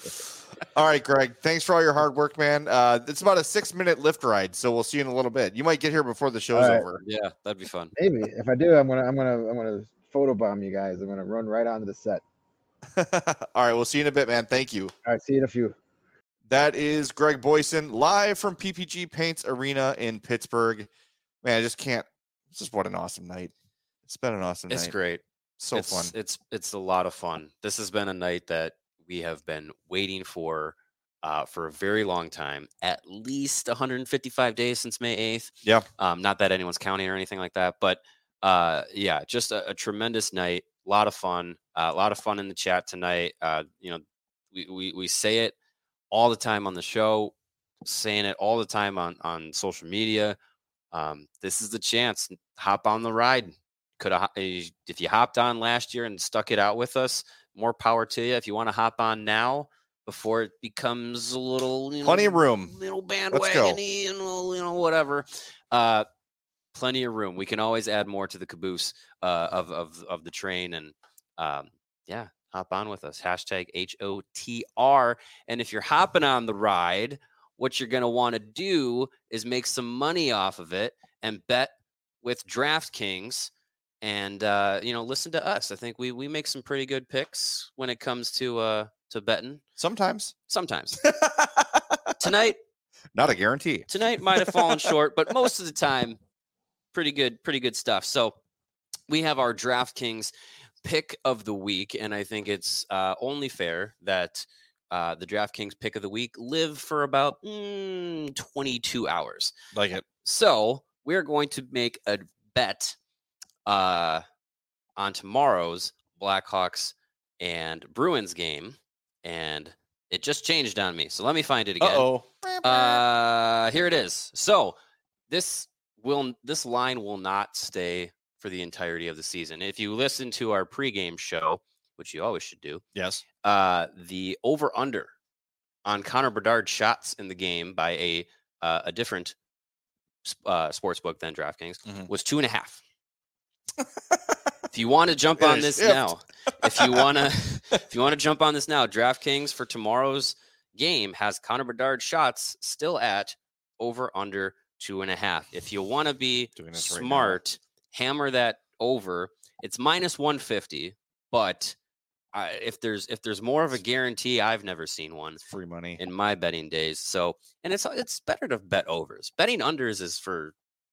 All right, Greg. Thanks for all your hard work, man. Uh, it's about a six-minute lift ride, so we'll see you in a little bit. You might get here before the show's All right. over. Yeah, that'd be fun. Maybe if I do, I'm gonna I'm gonna I'm gonna photobomb you guys. I'm gonna run right onto the set. All right, we'll see you in a bit, man. Thank you. All right, see you in a few. That is Greg Boyson live from P P G Paints Arena in Pittsburgh. Man, I just can't. It's just what an awesome night. It's been an awesome It's night. great. So it's, fun. It's it's a lot of fun. This has been a night that we have been waiting for uh, for a very long time. At least one hundred fifty-five days since May eighth. Yeah. Um, not that anyone's counting or anything like that, but uh, yeah, just a, a tremendous night. A lot of fun. Uh, a lot of fun in the chat tonight. Uh, you know, we, we we say it all the time on the show, saying it all the time on on social media. Um, this is the chance. Hop on the ride. Could have, if you hopped on last year and stuck it out with us, more power to you. If you want to hop on now before it becomes a little, you know, Plenty of room. little Let's go. bandwagon, you know, you know, whatever. Uh, plenty of room. We can always add more to the caboose uh, of of of the train, and um, yeah, hop on with us. Hashtag H O T R. And if you're hopping on the ride, what you're gonna want to do is make some money off of it and bet with DraftKings. And uh, you know, listen to us. I think we we make some pretty good picks when it comes to uh to betting. Sometimes. Sometimes. Tonight, not a guarantee. Tonight might have fallen short, but most of the time, pretty good, pretty good stuff. So we have our DraftKings pick of the week, and I think it's uh, only fair that uh, the DraftKings pick of the week live for about mm, twenty-two hours. Like it. So we're going to make a bet uh, on tomorrow's Blackhawks and Bruins game, and it just changed on me. So let me find it again. Uh-oh. Uh, here it is. So this will this line will not stay for the entirety of the season. If you listen to our pregame show, which you always should do, yes, uh, the over/under on Connor Bedard shots in the game by a uh, a different uh, sports book than DraftKings mm-hmm. was two and a half. If you want to jump on this shift. now, if you want to, if you want to jump on this now, DraftKings for tomorrow's game has Connor Bedard shots still at over under two and a half. If you want to be smart, right hammer that over. It's minus one fifty, but uh, if there's if there's more of a guarantee, I've never seen one. It's free money in my betting days. So, and it's it's better to bet overs. Betting unders is for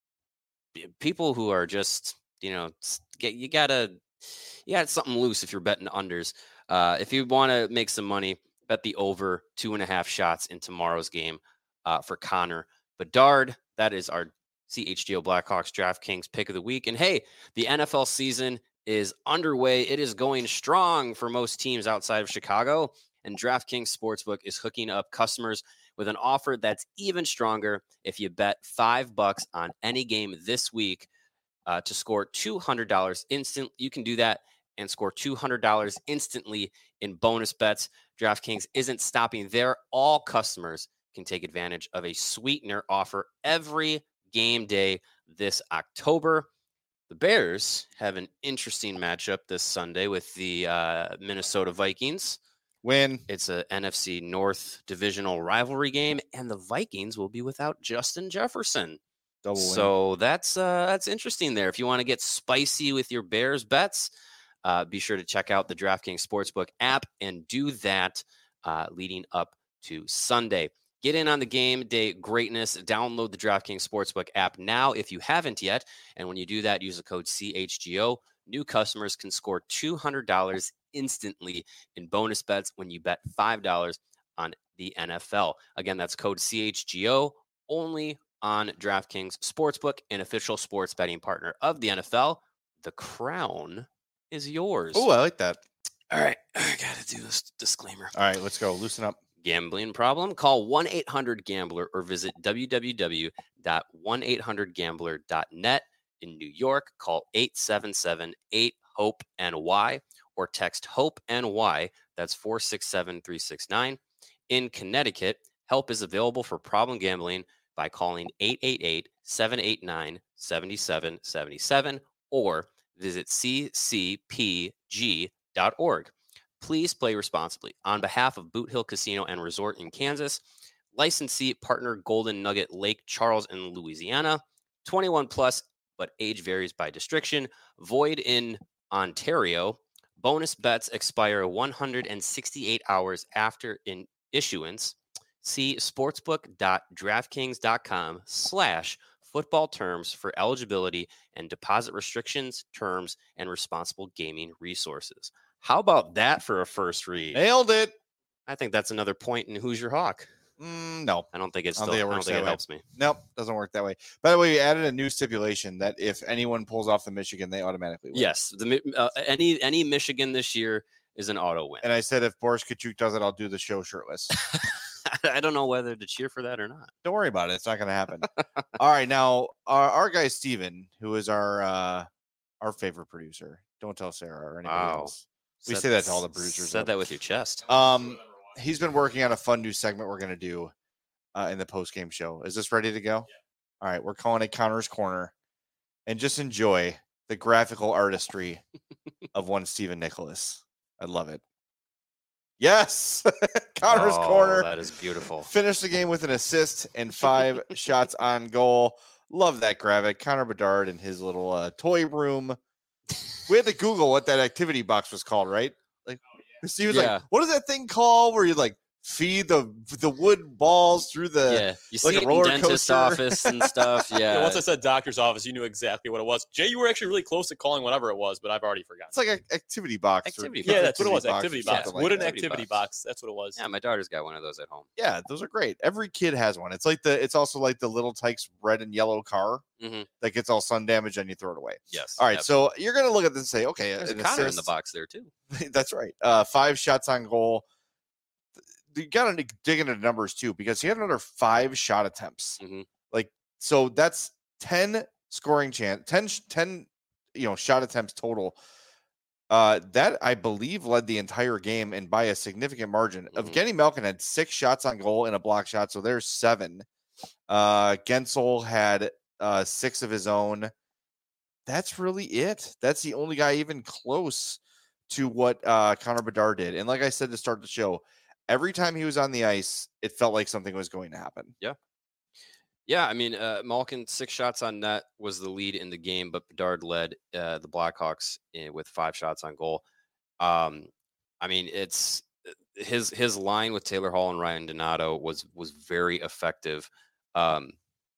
people who are just, you know, get you gotta you got something loose if you're betting unders. Uh, if you want to make some money, bet the over two and a half shots in tomorrow's game uh, for Connor Bedard. That is our C H G O Blackhawks DraftKings pick of the week. And hey, the N F L season is underway. It is going strong for most teams outside of Chicago. And DraftKings Sportsbook is hooking up customers with an offer that's even stronger if you bet five bucks on any game this week uh, to score two hundred dollars instant. You can do that and score two hundred dollars instantly in bonus bets. DraftKings isn't stopping there. All customers can take advantage of a sweetener offer every game day this October. The Bears have an interesting matchup this Sunday with the uh, Minnesota Vikings. Win. It's a N F C North divisional rivalry game, and the Vikings will be without Justin Jefferson. Double win. So that's uh, that's interesting there. If you want to get spicy with your Bears bets, uh, be sure to check out the DraftKings Sportsbook app and do that uh, leading up to Sunday. Get in on the game day greatness. Download the DraftKings Sportsbook app now if you haven't yet. And when you do that, use the code C H G O. New customers can score two hundred dollars instantly in bonus bets when you bet five dollars on the N F L. Again, that's code C H G O only on DraftKings Sportsbook, an official sports betting partner of the N F L. The crown is yours. Oh, I like that. All right. I got to do this disclaimer. All right, let's go. Loosen up. Gambling problem? Call one eight hundred gambler or visit w w w dot one eight hundred gambler dot net. In New York, call eight seven seven eight hope N Y or text HOPE-N Y. That's four six seven three six nine. In Connecticut, Help is available for problem gambling by calling eight eight eight, seven eight nine, seven seven seven seven or visit c c p g dot org. Please play responsibly. On behalf of Boot Hill Casino and Resort in Kansas, licensee partner Golden Nugget Lake Charles in Louisiana, twenty-one plus, but age varies by distriction, void in Ontario. Bonus bets expire one hundred sixty-eight hours after in issuance. See sportsbook.draftkings.com slash football terms for eligibility and deposit restrictions, terms, and responsible gaming resources. How about that for a first read? Nailed it. I think that's another point in Who's Your Hawk. Mm, no, I don't think it's I still, don't think it, I don't works think that it way. helps me. Nope, doesn't work that way. By the way, we added a new stipulation that if anyone pulls off the Michigan, they automatically win. Yes, the uh, any any Michigan this year is an auto win. And I said if Boris Kachuk does it, I'll do the show shirtless. I don't know whether to cheer for that or not. Don't worry about it. It's not going to happen. All right, now our, our guy Steven, who is our uh, our favorite producer. Don't tell Sarah or anybody Wow. else. We Said- say that to all the producers. Said though. that with your chest. Um, he's been working on a fun new segment we're going to do uh, in the post game show. Is this ready to go? Yeah. All right, we're calling it Connor's Corner, and just enjoy the graphical artistry of one Stephen Nicholas. I love it. Yes, Connor's Oh, Corner. that is beautiful. Finished the game with an assist and five shots on goal. Love that graphic. Connor Bedard in his little uh, toy room. We had to Google what that activity box was called, right? Like, he was Yeah. like, "What is that thing called?" Where you like feed the the wood balls through the Yeah, you like see a it in roller dentist coaster. office and stuff. Yeah, Yeah, once I said doctor's office, you knew exactly what it was. Jay, you were actually really close to calling whatever it was, but I've already forgotten. It's like an activity box. or- Activity yeah, box. that's what it was. box or Activity box. something like Wooden that. activity box. That's what it was. yeah. My daughter's got one of those at home. Yeah, those are great. Every kid has one. It's like the. It's also like the Little Tykes red and yellow car Mm-hmm. that gets all sun damage and you throw it away. Yes. All right, so you're gonna look at this and say, okay, There's a an Connor in the assist- box there too. That's right. Uh, five shots on goal. You got to dig into numbers too, because he had another five shot attempts. Mm-hmm. Like, so that's ten scoring chance, ten, sh- ten, you know, shot attempts total. Uh, that I believe led the entire game and by a significant margin. Mhm. Evgeny Malkin had six shots on goal and a block shot, so there's seven. Uh, Gensel had uh six of his own. That's really it. That's the only guy even close to what uh Connor Bedard did. And like I said to start the show, every time he was on the ice, it felt like something was going to happen. Yeah. Yeah, I mean, uh, Malkin, six shots on net was the lead in the game, but Bedard led uh, the Blackhawks in, with five shots on goal. Um, I mean, it's his his line with Taylor Hall and Ryan Donato was was very effective. Um,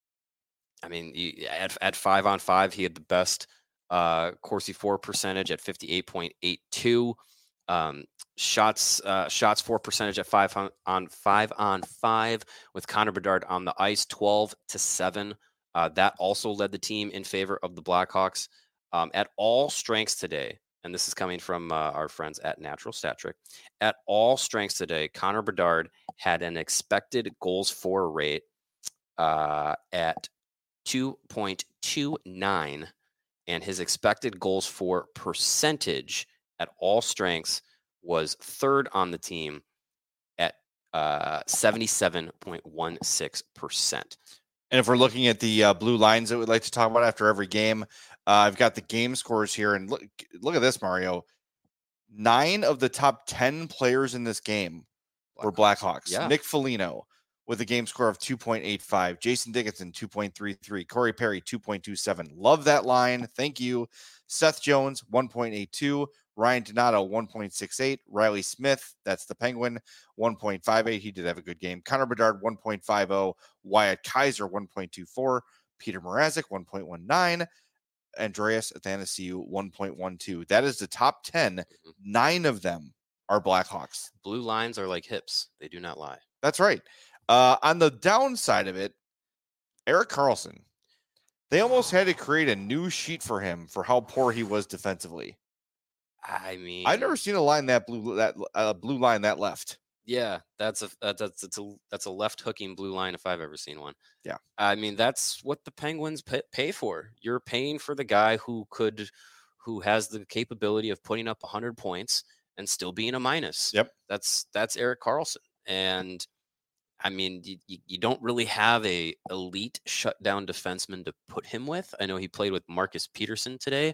I mean, he, at at five on five, he had the best uh, Corsi four percentage at fifty-eight point eight two. Um, shots uh, shots for percentage at five on, on five on five with Connor Bedard on the ice, twelve to seven. Uh, that also led the team in favor of the Blackhawks. Um, at all strengths today, and this is coming from uh, our friends at Natural Stat Trick. At all strengths today, Connor Bedard had an expected goals for rate uh, at two point two nine, and his expected goals for percentage at all strengths was third on the team at uh, seventy-seven point one six percent. And if we're looking at the uh, blue lines that we'd like to talk about after every game, uh, I've got the game scores here. And look, look at this, Mario. Nine of the top ten players in this game were Blackhawks. Yeah. Nick Foligno with a game score of two point eight five. Jason Dickinson, two point three three. Corey Perry, two point two seven. Love that line. Thank you. Seth Jones, one point eight two. Ryan Donato, one point six eight. Riley Smith, that's the Penguin, one point five eight. He did have a good game. Connor Bedard, one point five oh. Wyatt Kaiser, one point two four. Peter Mrazek, one point one nine. Andreas Athanasiou, one point one two. That is the top ten. Mm-hmm. Nine of them are Blackhawks. Blue lines are like hips. They do not lie. That's right. Uh, on the downside of it, Erik Karlsson, they almost had to create a new sheet for him for how poor he was defensively. I mean, I've never seen a line that blue that uh, blue line that left. Yeah, that's a that's that's that's a that's a left hooking blue line if I've ever seen one. Yeah, I mean that's what the Penguins pay, pay for. You're paying for the guy who could, who has the capability of putting up one hundred points and still being a minus. Yep, that's that's Erik Karlsson, and I mean, you, you don't really have a elite shutdown defenseman to put him with. I know he played with Marcus Peterson today.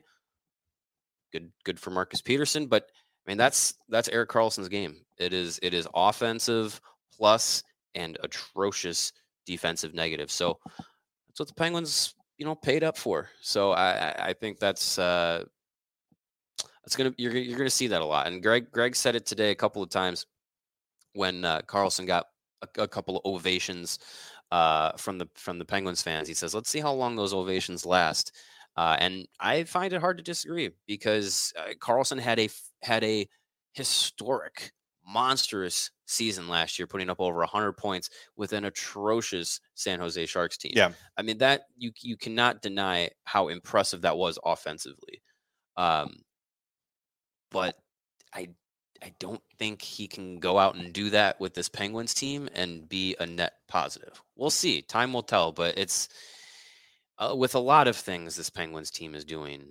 Good, good for Marcus Peterson, but I mean that's that's Erik Karlsson's game. It is it is offensive plus and atrocious defensive negative. So that's what the Penguins, you know, paid up for. So I I think that's uh, that's gonna you're you're gonna see that a lot. And Greg Greg said it today a couple of times when uh, Karlsson got a, a couple of ovations uh, from the from the Penguins fans. He says, "Let's see how long those ovations last." Uh, and I find it hard to disagree because uh, Karlsson had a had a historic, monstrous season last year, putting up over one hundred points with an atrocious San Jose Sharks team. Yeah, I mean that you you cannot deny how impressive that was offensively. Um, but I I don't think he can go out and do that with this Penguins team and be a net positive. We'll see. Time will tell. But it's. Uh, with a lot of things this Penguins team is doing,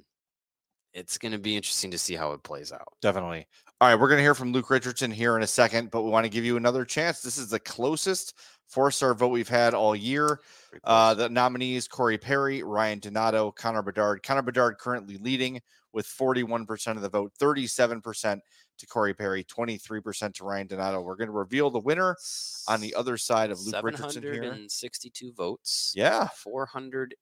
it's going to be interesting to see how it plays out. Definitely. All right, we're going to hear from Luke Richardson here in a second, but we want to give you another chance. This is the closest four-star vote we've had all year. Uh, the nominees, Corey Perry, Ryan Donato, Connor Bedard. Connor Bedard currently leading with forty-one percent of the vote, thirty-seven percent to Corey Perry, twenty-three percent to Ryan Donato. We're going to reveal the winner on the other side of Luke Richardson here. seven hundred sixty-two votes. Yeah. four hundred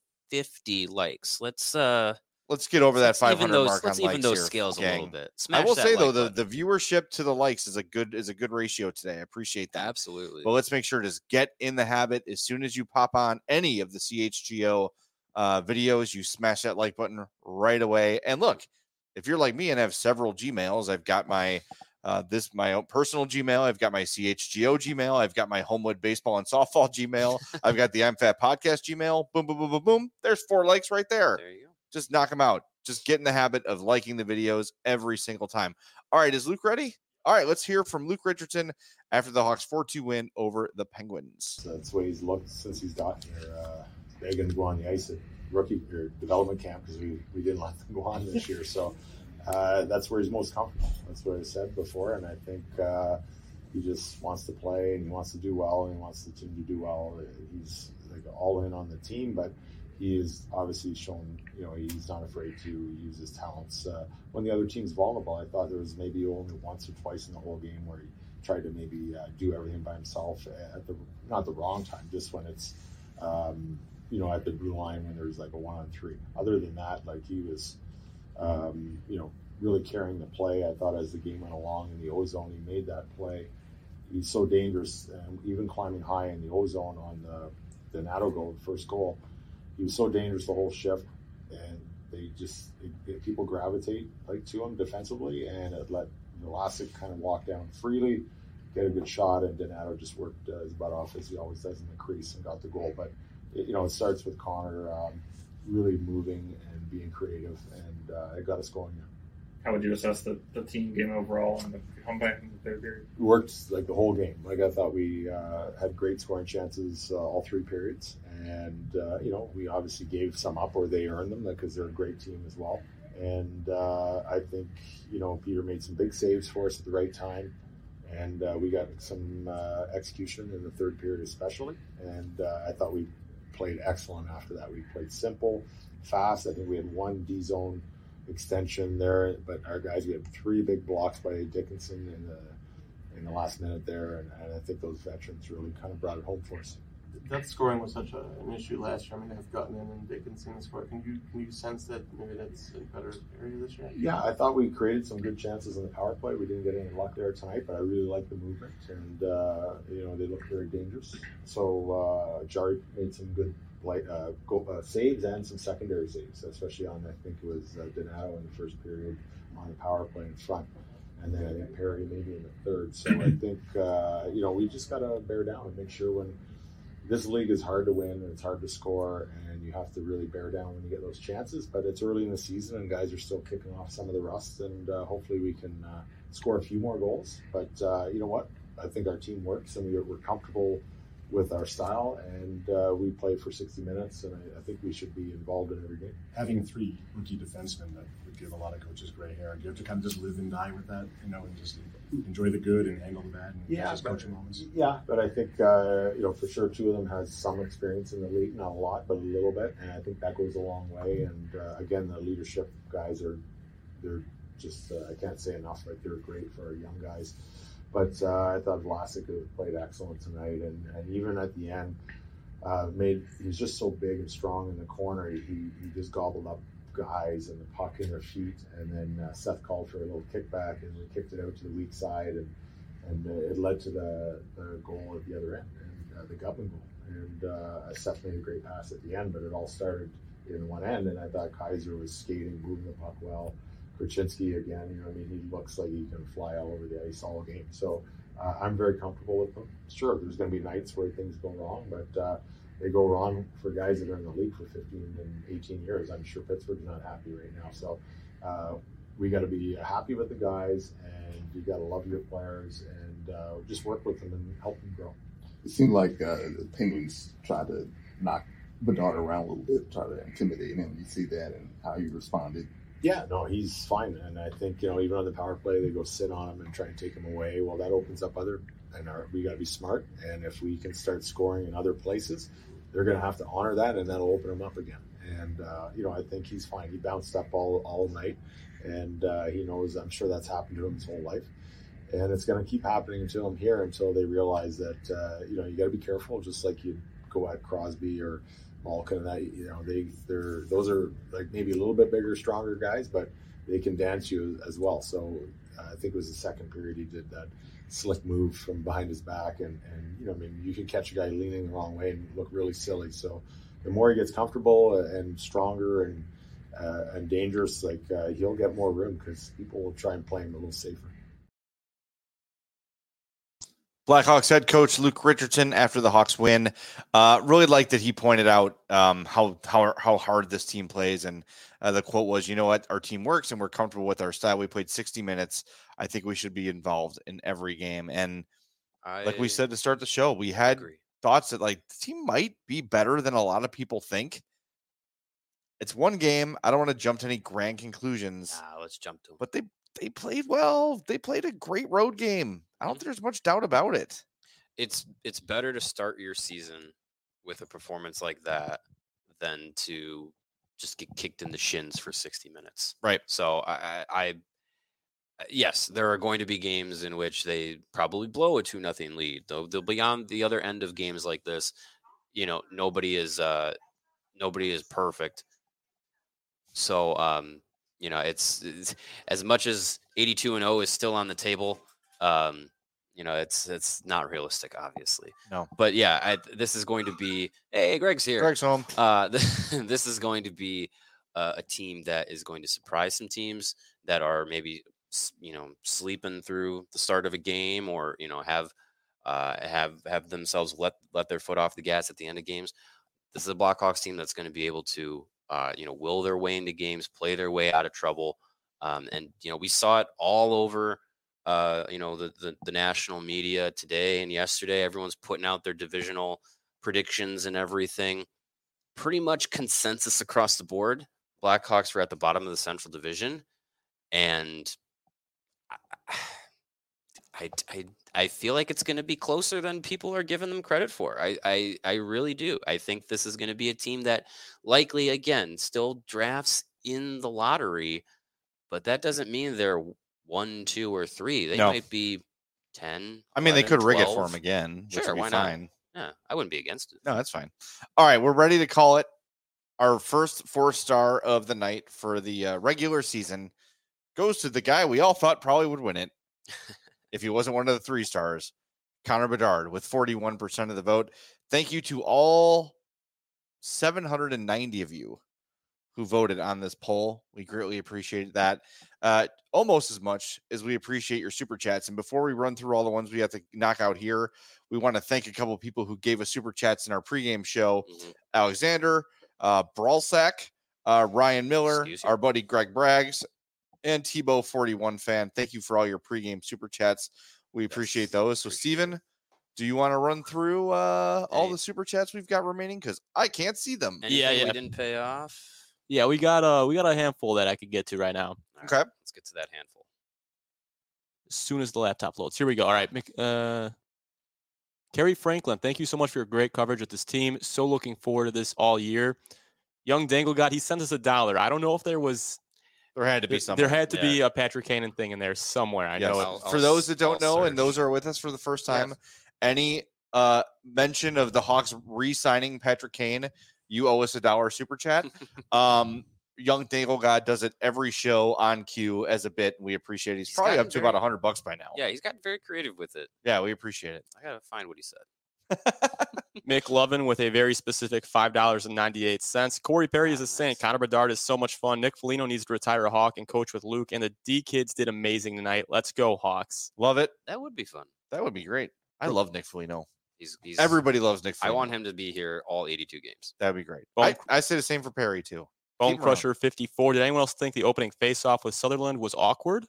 fifty likes. Let's uh let's get over that five hundred those, mark on let's likes even those here, scales gang. a little bit. Smash I will that say like though, the, button. the viewership to the likes is a good is a good ratio today. I appreciate that. Absolutely. But let's make sure to get in the habit as soon as you pop on any of the C H G O uh, videos, you smash that like button right away. And look, if you're like me and have several Gmails, I've got my uh, this my own personal Gmail. I've got my C H G O Gmail. I've got my Homewood Baseball and Softball Gmail. I've got the I'm Fat Podcast Gmail. Boom, boom, boom, boom, boom. There's four likes right there. There you go. Just knock them out. Just get in the habit of liking the videos every single time. All right, is Luke ready? All right, let's hear from Luke Richardson after the Hawks four two win over the Penguins. So that's the way he's looked since he's gotten here. Uh, begging to go on the ice at rookie or development camp because we, we didn't let them go on this year. So uh, that's where he's most comfortable. That's what I said before, and I think uh, he just wants to play and he wants to do well and he wants the team to do well. He's like all in on the team, but he is obviously shown, you know, he's not afraid to use his talents. Uh, when the other team's vulnerable, I thought there was maybe only once or twice in the whole game where he tried to maybe uh, do everything by himself at the, not the wrong time, just when it's, um, you know, at the blue line when there's like a one on three. Other than that, like he was, um, you know, really carrying the play. I thought as the game went along in the O-zone, he made that play. He's so dangerous, and even climbing high in the O-zone on the, the Donato goal, the first goal, he was so dangerous the whole shift, and they just it, it, people gravitate like to him defensively, and it let Vlasic kind of walk down freely, get a good shot, and Donato just worked uh, his butt off as he always does in the crease and got the goal. But it, you know, it starts with Connor um, really moving and being creative, and uh, it got us going. How would you assess the, the team game overall and the comeback in the third period? It worked like the whole game. Like I thought we uh, had great scoring chances uh, all three periods. And, uh, you know, we obviously gave some up or they earned them because they're a great team as well. And uh, I think, you know, Peter made some big saves for us at the right time. And uh, we got some uh, execution in the third period especially. And uh, I thought we played excellent after that. We played simple, fast. I think we had one D-zone extension there, but our guys, we had three big blocks by Dickinson in the in the last minute there, and, and I think those veterans really kind of brought it home for us. That scoring was such a, an issue last year. I mean, they've gotten in and Dickinson scored. Can you can you sense that maybe that's a better area this year? Yeah, I thought we created some good chances in the power play. We didn't get any luck there tonight, but I really like the movement, and uh, you know they look very dangerous. So uh, Jari made some good like uh, goal, uh, saves and some secondary saves, especially on I think it was uh, Donato in the first period on the power play in front, and then I think Perry maybe in the third. So I think uh, you know we just got to bear down and make sure when this league is hard to win and it's hard to score, and you have to really bear down when you get those chances. But it's early in the season and guys are still kicking off some of the rust, and uh, hopefully we can uh, score a few more goals. But uh, you know what? I think our team works and we're, we're comfortable with our style, and uh, we play for sixty minutes, and I, I think we should be involved in every game. Having three rookie defensemen, that would give a lot of coaches gray hair. Do you have to kind of just live and die with that, you know, and just enjoy the good and handle the bad and Yeah, just but- coaching moments? Yeah, but I think uh, you know for sure two of them has some experience in the league, not a lot, but a little bit, and I think that goes a long way. And uh, again, the leadership guys are they're just uh, I can't say enough. Like they're great for our young guys. But uh, I thought Vlasic played excellent tonight, and, and even at the end, uh, made he's just so big and strong in the corner. He he just gobbled up guys and the puck in their feet, and then uh, Seth called for a little kickback, and we kicked it out to the weak side, and and uh, it led to the, the goal at the other end, and uh, the Gutman goal. And uh, Seth made a great pass at the end, but it all started in one end, and I thought Kaiser was skating, moving the puck well. Krasinski again, you know, I mean, he looks like he can fly all over the ice all game. So uh, I'm very comfortable with him. Sure, there's going to be nights where things go wrong, but uh, they go wrong for guys that are in the league for fifteen and eighteen years. I'm sure Pittsburgh's not happy right now. So uh, we got to be happy with the guys, and you got to love your players, and uh, just work with them and help them grow. It seemed like uh, the Penguins tried to knock Bedard around a little bit, try to intimidate him. You see that and how he responded. Yeah, no, he's fine, and I think you know even on the power play they go sit on him and try and take him away. Well, that opens up other, and our, we got to be smart. And if we can start scoring in other places, they're going to have to honor that, and that'll open him up again. And uh, you know, I think he's fine. He bounced up all all night, and uh, he knows. I'm sure that's happened to him his whole life, and it's going to keep happening to him here until they realize that uh, you know you got to be careful, just like you go at Crosby or Malkin and that, you know, they they're those are like maybe a little bit bigger, stronger guys, but they can dance you as well. So uh, I think it was the second period he did that slick move from behind his back, and and you know, I mean, you can catch a guy leaning the wrong way and look really silly. So the more he gets comfortable and stronger and uh, and dangerous, like uh, he'll get more room because people will try and play him a little safer. Blackhawks head coach Luke Richardson after the Hawks win, uh, really liked that he pointed out um, how how how hard this team plays, and uh, the quote was, "You know what, our team works, and we're comfortable with our style. We played sixty minutes. I think we should be involved in every game." And I like we said to start the show, we had agree. thoughts that like the team might be better than a lot of people think. It's one game. I don't want to jump to any grand conclusions. Nah, let's jump to 'em. But they they played well. They played a great road game. I don't think there's much doubt about it. It's it's better to start your season with a performance like that than to just get kicked in the shins for sixty minutes. Right. So I, I, I yes, there are going to be games in which they probably blow a two nothing lead. Though they'll be on the other end of games like this. You know, nobody is uh nobody is perfect. So um, you know, it's, it's as much as eighty-two and oh is still on the table. Um, you know, it's it's not realistic, obviously. No. But yeah, I, this is going to be. Hey, Greg's here. Greg's home. Uh, this is going to be uh, a team that is going to surprise some teams that are maybe you know sleeping through the start of a game, or you know have uh, have have themselves let let their foot off the gas at the end of games. This is a Blackhawks team that's going to be able to uh, you know will their way into games, play their way out of trouble, um, and you know we saw it all over. Uh, you know, the, the the national media today and yesterday, everyone's putting out their divisional predictions and everything. Pretty much consensus across the board. Blackhawks were at the bottom of the Central Division, and I I I, I feel like it's going to be closer than people are giving them credit for. I, I I really do. I think this is going to be a team that likely again still drafts in the lottery, but that doesn't mean they're one, two, or three. They No. might be ten. I mean, they eleven, could rig it for twelve. him again. Which Sure, would be why fine. not? Yeah, I wouldn't be against it. No, that's fine. All right, we're ready to call it. Our first four star of the night for the uh, regular season goes to the guy we all thought probably would win it if he wasn't one of the three stars, Connor Bedard, with forty-one percent of the vote. Thank you to all seven hundred ninety of you who voted on this poll. We greatly appreciate that. Uh, almost as much as we appreciate your super chats. And before we run through all the ones we have to knock out here, we want to thank a couple of people who gave us super chats in our pregame show. Mm-hmm. Alexander, uh, Brawlsack, uh, Ryan Miller, our buddy Greg Braggs, and Tebow forty-one fan. Thank you for all your pregame super chats. We appreciate those. So, Steven, do you want to run through uh, all the super chats we've got remaining? Because I can't see them. Anything Yeah, yeah. we didn't pay off? Yeah, we got uh we got a handful that I could get to right now. All Okay. right, let's get to that handful. As soon as the laptop loads. Here we go. All right. Mick- Uh, Kerry Franklin, thank you so much for your great coverage with this team. So looking forward to this all year. Young Dangle God, he sent us a dollar. I don't know if there was There had to be there, something. there had to be a Patrick Cannon thing in there somewhere. I Yes. know it. I'll- For I'll those s- that don't I'll know, and those search. are with us for the first time, any uh, mention of the Hawks re-signing Patrick Kane, you owe us a dollar super chat. um, Young Dangle God does it every show on cue as a bit. And we appreciate it. He's, He's probably gotten up to very- about a hundred bucks by now. Yeah, he's gotten very creative with it. Yeah, we appreciate it. I gotta find what he said. Mick Lovin with a very specific five dollars and ninety-eight cents. Corey Perry is a saint. Connor Bedard is so much fun. Nick Foligno needs to retire a Hawk and coach with Luke. And the D kids did amazing tonight. Let's go, Hawks. Love it. That would be fun. That would be great. I love Nick Foligno. He's, he's Everybody loves Nick I Foligno. want him to be here all eighty-two games. That'd be great. Bone- I, I say the same for Perry too. Bone Keep him Crusher fifty-four. Did anyone else think the opening face-off with Sutherland was awkward?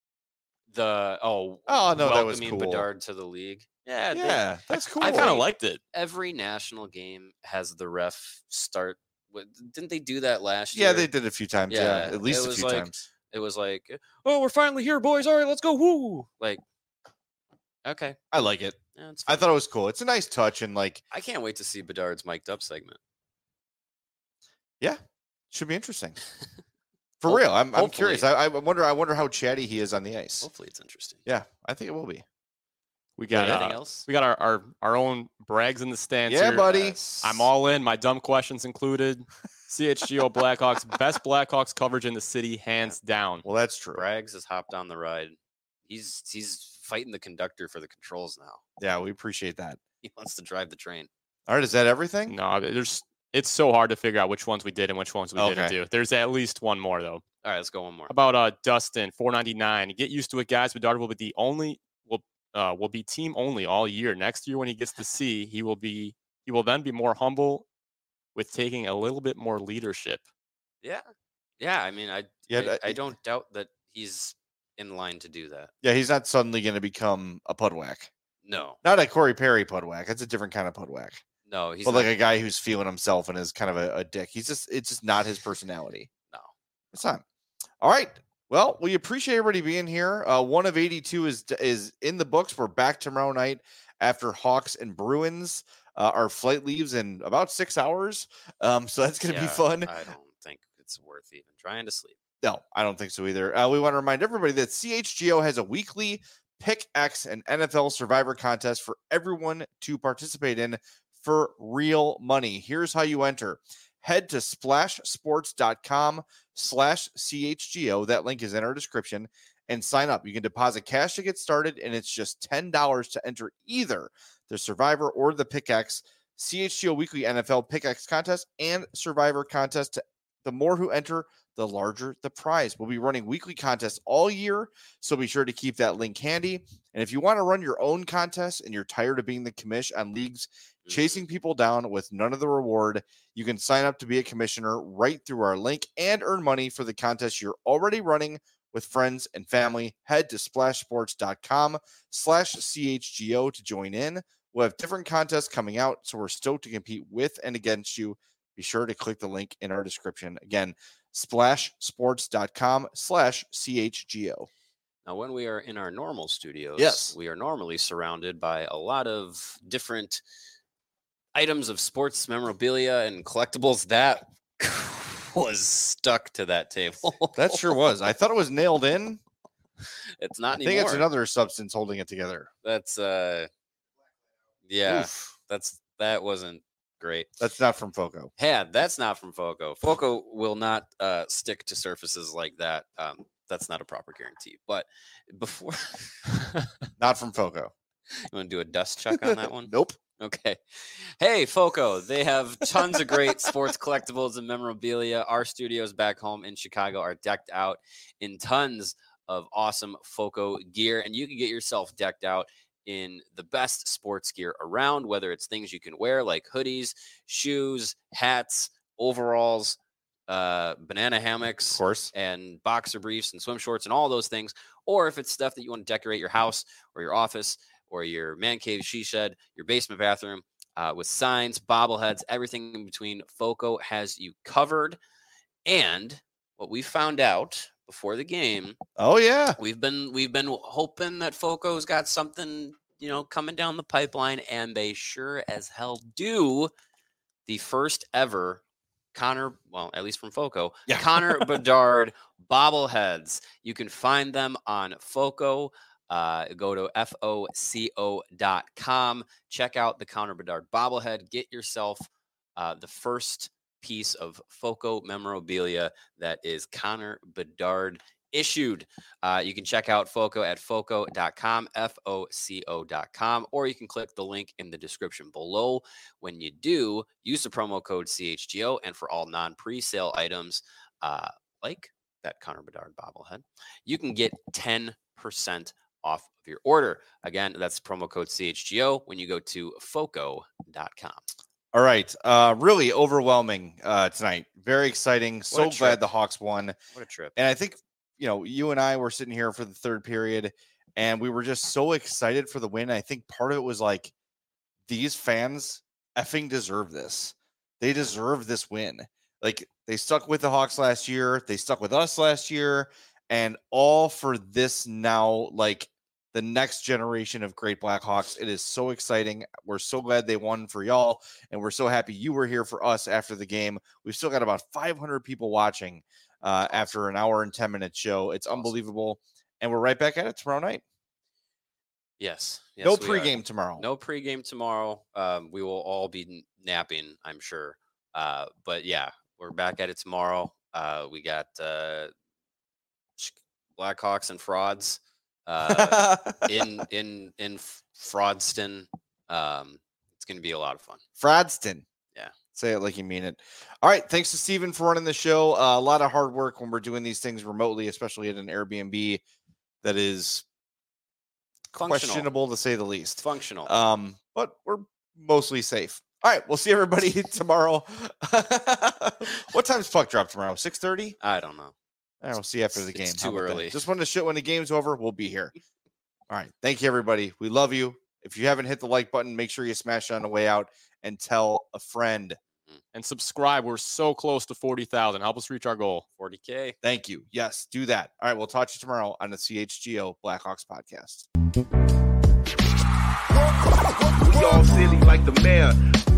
The oh Oh, no, that was welcoming cool. Bedard to the league. Yeah, they- Yeah, that's cool. I kind of liked it. every national game has the ref start. with- Didn't they do that last Yeah, year? they did it a few times. Yeah, Yeah, at least it a was few like- times. It was like, oh, we're finally here, boys. All right, let's go. Woo! Like, okay, I like it. yeah, it's I fine. thought it was cool. It's a nice touch and like, I can't wait to see Bedard's mic'd up segment. yeah, should be interesting. For real, I'm I'm curious. hopefully. I, I wonder. I wonder how chatty he is on the ice. Hopefully, it's interesting. Yeah, I think it will be. We got Anything uh, else? we got our, our, our own Brags in the stands Yeah, here. buddy. Yes. I'm all in. My dumb questions included. C H G O Blackhawks, best Blackhawks coverage in the city, hands down. Well, that's true. Braggs has hopped on the ride. He's he's fighting the conductor for the controls now. Yeah, we appreciate that. He wants to drive the train. All right, is that everything? No, there's it's so hard to figure out which ones we did and which ones we didn't Okay. do. There's at least one more though. All right, let's go one more. About uh Dustin, four ninety-nine. Get used to it, guys. Bedard will be the only will uh will be team only all year. Next year when he gets to C, he will be he will then be more humble with taking a little bit more leadership. Yeah, yeah. I mean, I Yeah, I, that- I don't doubt that he's in line to do that. Yeah, he's not suddenly going to become a pudwhack. No, Not a Corey Perry pudwhack. That's a different kind of pudwhack. no, he's But not, like a guy who's feeling himself and is kind of a, a dick. He's just it's just not his personality. no. It's not. All right. Well, we appreciate everybody being here. Uh, one of eighty-two is is in the books. We're back tomorrow night after Hawks and Bruins. Uh, our flight leaves in about six hours, um, so that's going to be Yeah, fun. I don't think it's worth even trying to sleep. No, I don't think so either. Uh, we want to remind everybody that C H G O has a weekly Pick X and N F L Survivor contest for everyone to participate in for real money. Here's how you enter. Head to splashsports.com slash CHGO. That link is in our description and sign up. You can deposit cash to get started, and it's just ten dollars to enter either the Survivor or the Pick X C H G O Weekly N F L Pick X contest and Survivor contest. To, the more who enter, the larger the prize. We'll be running weekly contests all year, so be sure to keep that link handy. And if you want to run your own contest and you're tired of being the commish on leagues chasing people down with none of the reward, you can sign up to be a commissioner right through our link and earn money for the contest you're already running with friends and family. Head to splashsports.com slash CHGO to join in. We'll have different contests coming out, so we're stoked to compete with and against you. Be sure to click the link in our description. Again, splashsports.com slash CHGO. Now, when we are in our normal studios, Yes. we are normally surrounded by a lot of different items of sports memorabilia and collectibles. That was stuck to that table. That sure was. I thought it was nailed in. It's not I anymore. think it's another substance holding it together. That's uh, yeah. Oof. That's that wasn't great. That's not from Foco. Yeah, that's not from Foco. Foco will not uh, stick to surfaces like that. Um, that's not a proper guarantee. But before, Not from Foco. you want to do a dust check on that one? Nope. Okay. Hey, Foco, they have tons of great sports collectibles and memorabilia. Our studios back home in Chicago are decked out in tons of awesome Foco gear, and you can get yourself decked out in the best sports gear around, whether it's things you can wear like hoodies, shoes, hats, overalls, uh, banana hammocks, Of course. and boxer briefs and swim shorts and all those things, or if it's stuff that you want to decorate your house or your office or your man cave, she shed, your basement bathroom, uh, with signs, bobbleheads, everything in between. Foco has you covered. And what we found out before the game. Oh yeah. We've been we've been hoping that Foco's got something, you know, coming down the pipeline, and they sure as hell do. The first ever Connor, well, at least from Foco, yeah. Connor Bedard bobbleheads. You can find them on Foco. Uh, go to F O C O dot com. Check out the Connor Bedard bobblehead. Get yourself uh, the first piece of Foco memorabilia that is Connor Bedard issued. Uh, you can check out Foco at foco dot com, F O C O dot com, or you can click the link in the description below. When you do, use the promo code C H G O, and for all non-presale items, uh, like that Connor Bedard bobblehead, you can get ten percent off of your order. Again, that's promo code C H G O when you go to foco dot com. All right. Uh, really overwhelming uh, tonight. Very exciting. So trip. glad the Hawks won. What a trip. And I think, you know, you and I were sitting here for the third period, and we were just so excited for the win. I think part of it was like, these fans effing deserve this. They deserve this win. Like, they stuck with the Hawks last year. They stuck with us last year. And all for this now, like, the next generation of great Blackhawks. It is so exciting. We're so glad they won for y'all, and we're so happy you were here for us after the game. We've still got about five hundred people watching uh, after an hour and ten minute show. It's unbelievable, and we're right back at it tomorrow night. Yes. yes no we pregame are. tomorrow. No pregame tomorrow. Um, we will all be napping, I'm sure. Uh, but yeah, we're back at it tomorrow. Uh, we got uh, Blackhawks and frauds. uh, in in in Fraudston. Um, it's going to be a lot of fun. Fraudston. Yeah. Say it like you mean it. All right. Thanks to Steven for running the show. Uh, a lot of hard work when we're doing these things remotely, especially at an Airbnb that is Functional. questionable to say the least. Functional. Um, but we're mostly safe. All right. We'll see everybody tomorrow. What time's puck drop tomorrow? six thirty? I don't know. I will see after the game. It's too early. Just wanted to show when the game's over. We'll be here. All right. Thank you, everybody. We love you. If you haven't hit the like button, make sure you smash it on the way out and tell a friend. And subscribe. We're so close to forty thousand. Help us reach our goal. forty K. Thank you. Yes, do that. All right. We'll talk to you tomorrow on the C H G O Blackhawks podcast. We all silly like the mayor.